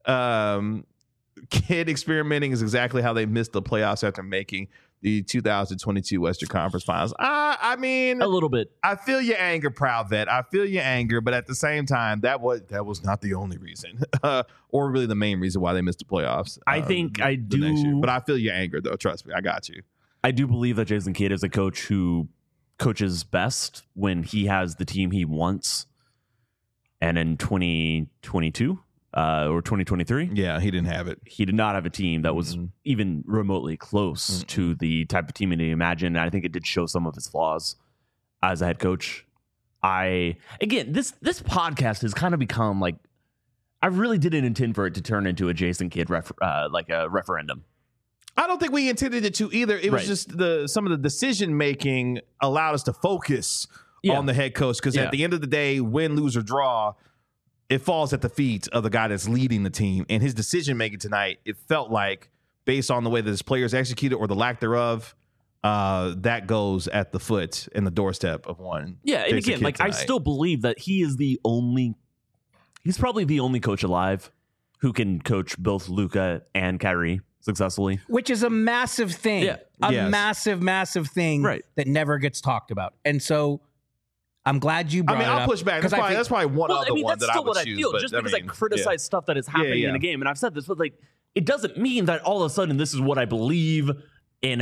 Kid experimenting is exactly how they missed the playoffs after making the 2022 Western Conference Finals. I mean, a little bit. I feel your anger, Proud Vet. I feel your anger, but at the same time, that was not the only reason, or really the main reason why they missed the playoffs. I think I the next year. do. But I feel your anger, though. Trust me, I got you. I do believe that Jason Kidd is a coach who coaches best when he has the team he wants. And in 2022 or 2023, Yeah, he didn't have it. he did not have a team that was Mhm. even remotely close to the type of team that he imagined. And I think it did show some of his flaws as a head coach. This podcast has kind of become like, I really didn't intend for it to turn into a Jason Kidd like a referendum. I don't think we intended it to either. It was Right. just some of the decision making allowed us to focus on the head coach because at the end of the day, win, lose, or draw, it falls at the feet of the guy that's leading the team. And his decision making tonight, it felt like, based on the way that his players executed or the lack thereof, that goes at the foot and the doorstep of one. Yeah, and Jason again, Kidd like I tonight. still believe that he's probably the only coach alive who can coach both Luka and Kyrie successfully. Which is a massive thing. Yeah. Yes. Massive thing Right. that never gets talked about. And so I'm glad you brought it up. I'll push back. That's probably one other one that I would choose. Just because I criticize stuff that is happening in the game, and I've said this, but like, it doesn't mean that all of a sudden this is what I believe in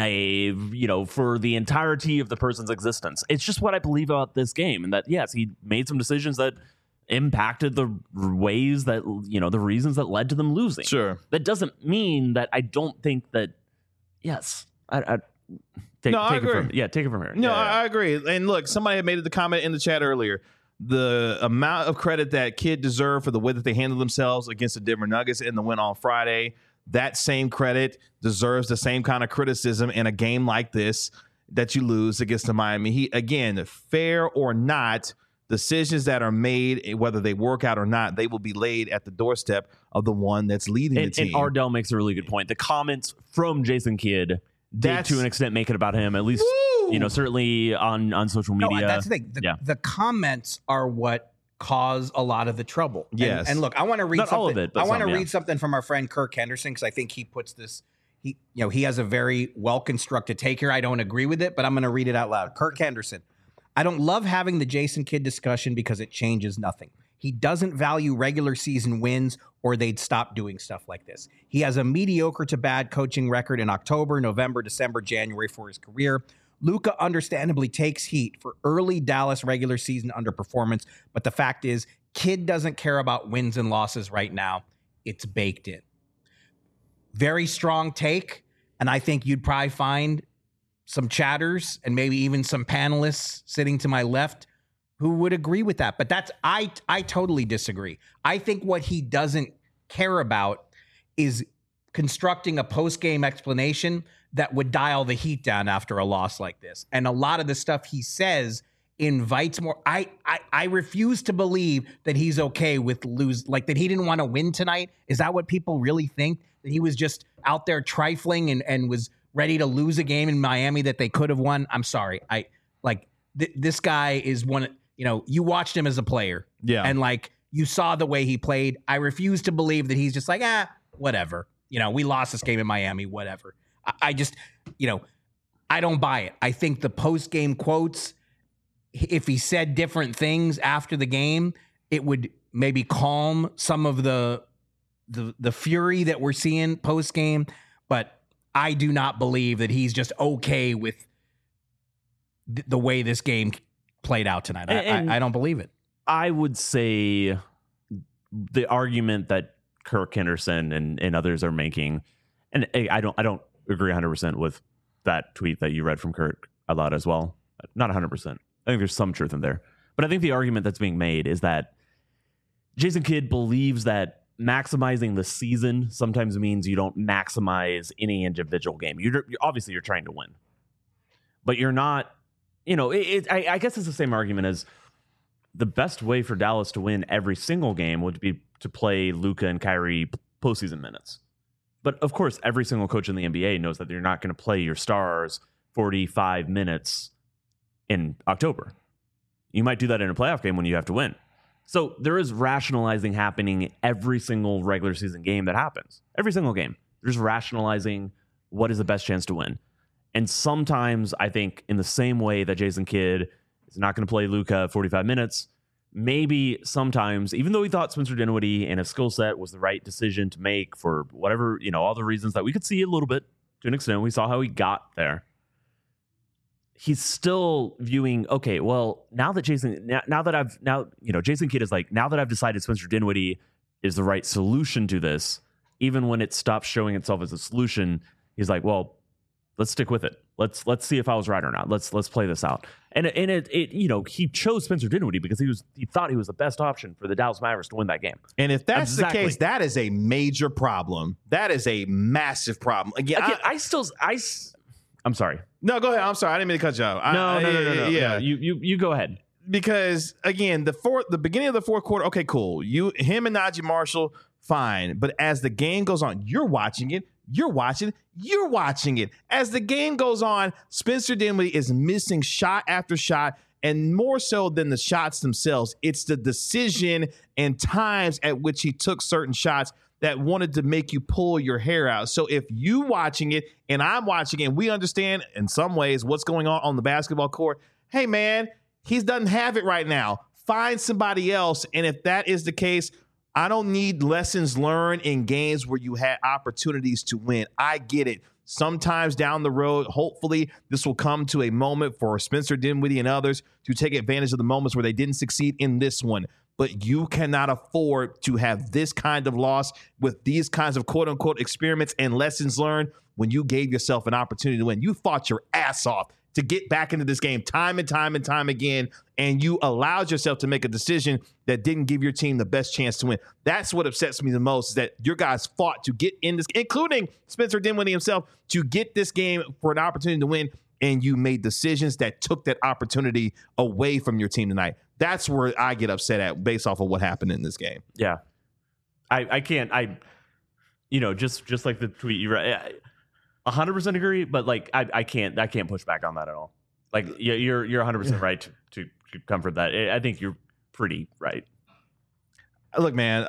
for the entirety of the person's existence. It's just what I believe about this game, and that yes, he made some decisions that impacted the ways that the reasons that led to them losing. Sure. That doesn't mean that I don't think that. Yes, I take I it agree. take it from here. No, I agree. And look, somebody had made the comment in the chat earlier. The amount of credit that Kidd deserved for the way that they handled themselves against the Denver Nuggets in the win on Friday, that same credit deserves the same kind of criticism in a game like this that you lose against the Miami Heat. Again, fair or not, decisions that are made, whether they work out or not, they will be laid at the doorstep of the one that's leading the team. And Ardell makes a really good point. The comments from Jason Kidd did to an extent make it about him, at least certainly on social media. No, that's the thing. The comments are what cause a lot of the trouble. Yes. And look, I want to read Not something. all of it, but I want to some, read something from our friend Kirk Henderson, because I think he puts this. He has a very well constructed take here. I don't agree with it, but I'm going to read it out loud. Kirk Henderson. I don't love having the Jason Kidd discussion because it changes nothing. He doesn't value regular season wins, or they'd stop doing stuff like this. He has a mediocre to bad coaching record in October, November, December, January for his career. Luka understandably takes heat for early Dallas regular season underperformance, but the fact is, Kidd doesn't care about wins and losses right now. It's baked in. Very strong take, and I think you'd probably find some chatters and maybe even some panelists sitting to my left who would agree with that. But I totally disagree. I think what he doesn't care about is constructing a post-game explanation that would dial the heat down after a loss like this. And a lot of the stuff he says invites more. I refuse to believe that he's okay with that he didn't want to win tonight. Is that what people really think? That he was just out there trifling and was ready to lose a game in Miami that they could have won? I'm sorry. This guy is one, you watched him as a player. Yeah. And you saw the way he played. I refuse to believe that he's just whatever. We lost this game in Miami, whatever. I just, I don't buy it. I think the post-game quotes, if he said different things after the game, it would maybe calm some of the fury that we're seeing post-game. But I do not believe that he's just okay with the way this game played out tonight. I don't believe it. I would say the argument that Kirk Henderson and others are making, and I don't agree 100% with that tweet that you read from Kirk a lot as well. Not 100%. I think there's some truth in there. But I think the argument that's being made is that Jason Kidd believes that maximizing the season sometimes means you don't maximize any individual game. You're obviously you're trying to win, but you're not. I guess it's the same argument as the best way for Dallas to win every single game would be to play Luka and Kyrie postseason minutes. But of course, every single coach in the NBA knows that you're not going to play your stars 45 minutes in October. You might do that in a playoff game when you have to win. So there is rationalizing happening every single regular season game that happens. Every single game. There's rationalizing what is the best chance to win. And sometimes I think in the same way that Jason Kidd is not going to play Luka 45 minutes, maybe sometimes, even though he thought Spencer Dinwiddie and his skill set was the right decision to make for whatever, all the reasons that we could see a little bit to an extent, we saw how he got there. He's still viewing, okay, well, Jason Kidd is like, now that I've decided Spencer Dinwiddie is the right solution to this, even when it stops showing itself as a solution, he's like, well, let's stick with it. Let's see if I was right or not. Let's play this out. And he chose Spencer Dinwiddie because he thought he was the best option for the Dallas Mavericks to win that game. And if that's the case, that is a major problem. That is a massive problem. Again, I'm sorry. No, go ahead. I'm sorry. I didn't mean to cut you off. No. Yeah, you go ahead. Because again, the beginning of the fourth quarter, okay, cool. Him and Najee Marshall, fine. But as the game goes on, you're watching it. As the game goes on, Spencer Dinwiddie is missing shot after shot, and more so than the shots themselves, it's the decision and times at which he took certain shots that wanted to make you pull your hair out. So if you watching it and I'm watching it and we understand in some ways what's going on the basketball court, hey, man, he doesn't have it right now. Find somebody else. And if that is the case, I don't need lessons learned in games where you had opportunities to win. I get it. Sometimes down the road, hopefully this will come to a moment for Spencer Dinwiddie and others to take advantage of the moments where they didn't succeed in this one. But you cannot afford to have this kind of loss with these kinds of quote unquote experiments and lessons learned when you gave yourself an opportunity to win. You fought your ass off to get back into this game time and time and time again, and you allowed yourself to make a decision that didn't give your team the best chance to win. That's what upsets me the most, is that your guys fought to get in this, including Spencer Dinwiddie himself, to get this game for an opportunity to win, and you made decisions that took that opportunity away from your team tonight. That's where I get upset at based off of what happened in this game. Yeah. I can't, just like the tweet you read, 100% agree, but like I can't push back on that at all. Like you're 100% right to comfort that. I think you're pretty right. Look, man,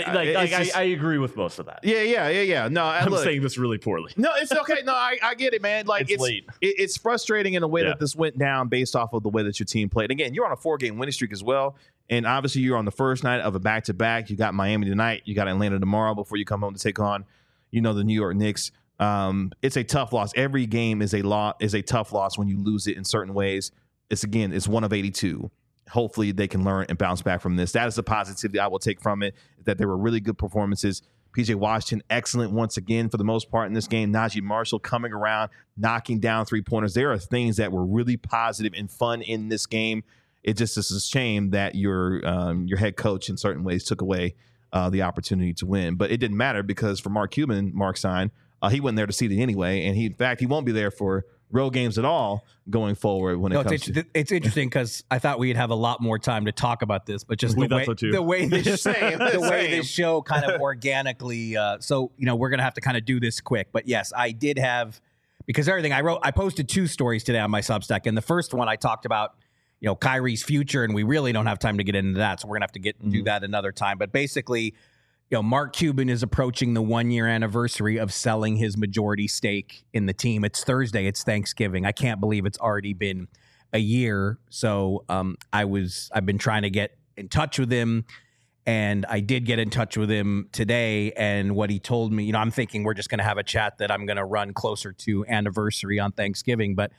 I agree with most of that. Yeah. No, I'm saying this really poorly. No, it's okay. No, I get it, man. Like it's late. It's frustrating in the way that this went down based off of the way that your team played. Again, you're on a 4-game winning streak as well, and obviously you're on the first night of a back-to-back. You got Miami tonight. You got Atlanta tomorrow before you come home to take on, the New York Knicks. It's a tough loss. Every game is a tough loss when you lose it in certain ways. It's one of 82. Hopefully they can learn and bounce back from this. That is the positivity I will take from it, that there were really good performances. PJ Washington, excellent once again for the most part in this game. Najee Marshall coming around, knocking down three-pointers. There are things that were really positive and fun in this game. It just is a shame that your head coach in certain ways took away the opportunity to win. But it didn't matter because for Mark Cuban, Mark Stein, he wasn't there to see it anyway. And in fact, he won't be there for road games at all going forward when it comes to... It's interesting because I thought we'd have a lot more time to talk about this, but just the way this show kind of organically... so, we're going to have to kind of do this quick. But yes, I did have... Because everything I posted 2 stories today on my Substack. And the first one I talked about, Kyrie's future, and we really don't have time to get into that. So we're going to have to do that another time. But basically... Mark Cuban is approaching the 1-year anniversary of selling his majority stake in the team. It's Thursday. It's Thanksgiving. I can't believe it's already been a year. So I've been trying to get in touch with him, and I did get in touch with him today. And what he told me, I'm thinking we're just going to have a chat that I'm going to run closer to anniversary on Thanksgiving. But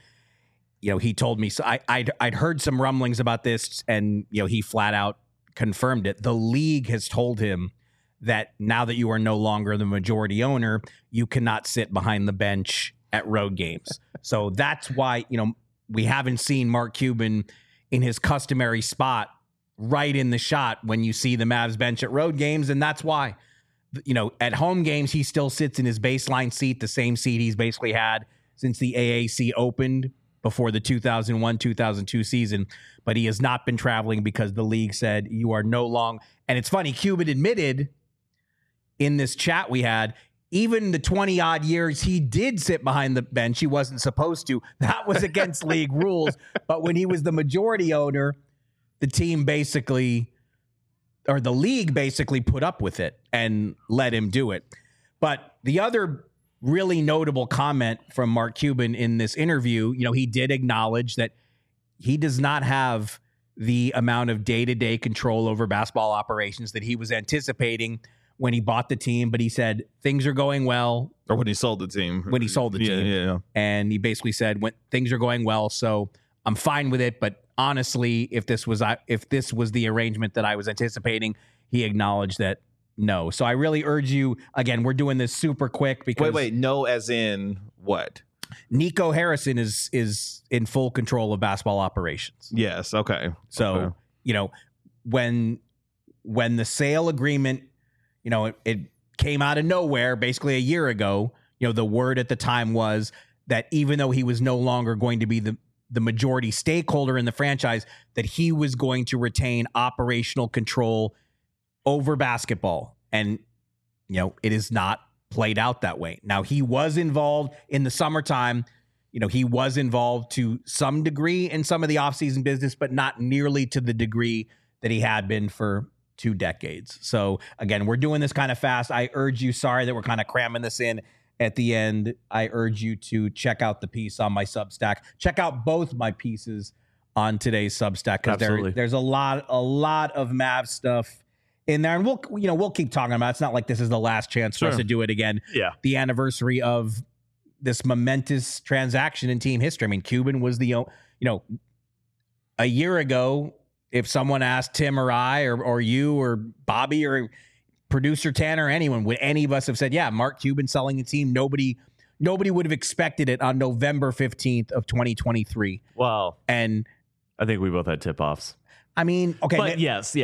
he told me, so I'd heard some rumblings about this, and he flat out confirmed it. The league has told him that now that you are no longer the majority owner, you cannot sit behind the bench at road games. So that's why, we haven't seen Mark Cuban in his customary spot right in the shot when you see the Mavs bench at road games. And that's why, at home games, he still sits in his baseline seat, the same seat he's basically had since the AAC opened before the 2001-2002 season. But he has not been traveling because the league said you are no longer. And it's funny, Cuban admitted in this chat we had, even the 20-odd years he did sit behind the bench, he wasn't supposed to. That was against league rules. But when he was the majority owner, the team basically, or the league basically put up with it and let him do it. But the other really notable comment from Mark Cuban in this interview, he did acknowledge that he does not have the amount of day-to-day control over basketball operations that he was anticipating when he bought the team, but he said things are going well. Or when he sold the team. When he sold the team. Yeah. And he basically said, when things are going well, so I'm fine with it. But honestly, if this was the arrangement that I was anticipating, he acknowledged that no. So I really urge you, again, we're doing this super quick because... Wait, no as in what? Nico Harrison is in full control of basketball operations. Yes, okay. So, when the sale agreement... it came out of nowhere basically a year ago. The word at the time was that even though he was no longer going to be the majority stakeholder in the franchise, that he was going to retain operational control over basketball. And, it is not played out that way. Now, he was involved in the summertime. He was involved to some degree in some of the offseason business, but not nearly to the degree that he had been for 2 decades. So again, we're doing this kind of fast. I urge you, sorry that we're kind of cramming this in at the end. I urge you to check out the piece on my Substack. Check out both my pieces on today's Substack, because there's a lot of Mavs stuff in there, and we'll keep talking about it. It's not like this is the last chance for us to do it again. Yeah, the anniversary of this momentous transaction in team history. I mean, Cuban was a year ago, if someone asked Tim or I or you or Bobby or producer Tanner or anyone, would any of us have said, yeah, Mark Cuban selling the team? Nobody would have expected it on November 15th of 2023. Well, and I think we both had tip-offs. I mean, okay, but yes.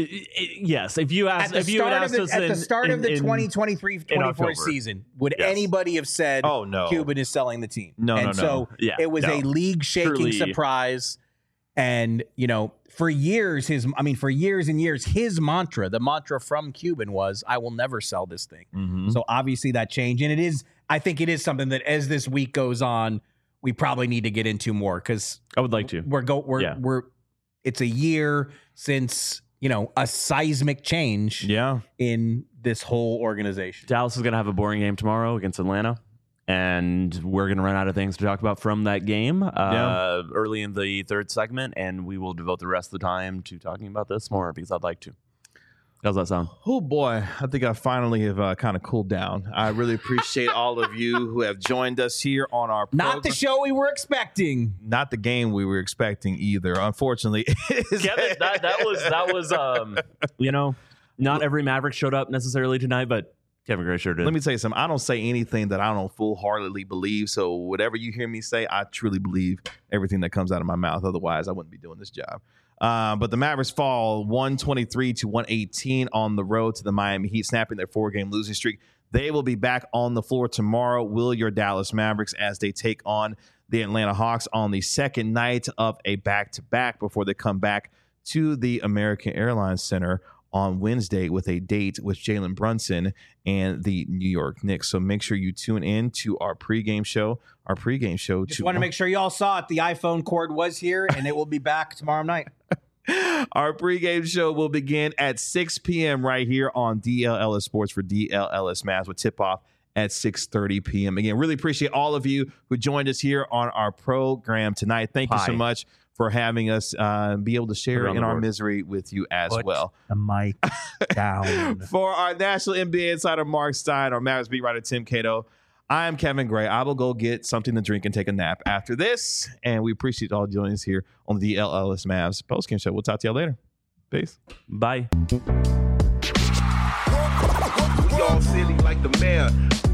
If you asked, at the start of the 2023-24 season, would anybody have said, "Oh no, Cuban is selling the team"? No. So it was a league-shaking surprise. And for years and years, his mantra, the mantra from Cuban, was, "I will never sell this thing." Mm-hmm. So obviously that changed, and I think it is something that as this week goes on, we probably need to get into more, because I would like to. It's a year since a seismic change in this whole organization. Dallas is going to have a boring game tomorrow against Atlanta, and we're going to run out of things to talk about from that game early in the third segment, and we will devote the rest of the time to talking about this more, because I'd like to. How's that sound? Oh, boy. I think I finally have kind of cooled down. I really appreciate all of you who have joined us here on our program. Not the show we were expecting. Not the game we were expecting either, unfortunately. Kevin, that was not every Maverick showed up necessarily tonight, but Kevin Gray sure did. Let me tell you something. I don't say anything that I don't full-heartedly believe. So whatever you hear me say, I truly believe everything that comes out of my mouth. Otherwise, I wouldn't be doing this job. But the Mavericks fall 123-118 on the road to the Miami Heat, snapping their 4-game losing streak. They will be back on the floor tomorrow, will your Dallas Mavericks, as they take on the Atlanta Hawks on the second night of a back-to-back before they come back to the American Airlines Center on Wednesday with a date with Jalen Brunson and the New York Knicks. So make sure you tune in to our pregame show. Just want to make sure you all saw it. The iPhone cord was here, and it will be back tomorrow night. Our pregame show will begin at 6 p.m. right here on DLLS Sports for DLLS Mavs, with tip-off at 6:30 p.m. Again, really appreciate all of you who joined us here on our program tonight. Thank you so much for having us be able to share in our misery with you as well. The mic down. For our National NBA insider Mark Stein, our Mavs beat writer Tim Cato, I am Kevin Gray. I will go get something to drink and take a nap after this. And we appreciate all joining us here on the DLLS Mavs postgame show. We'll talk to y'all later. Peace. Bye. We all silly like the mayor.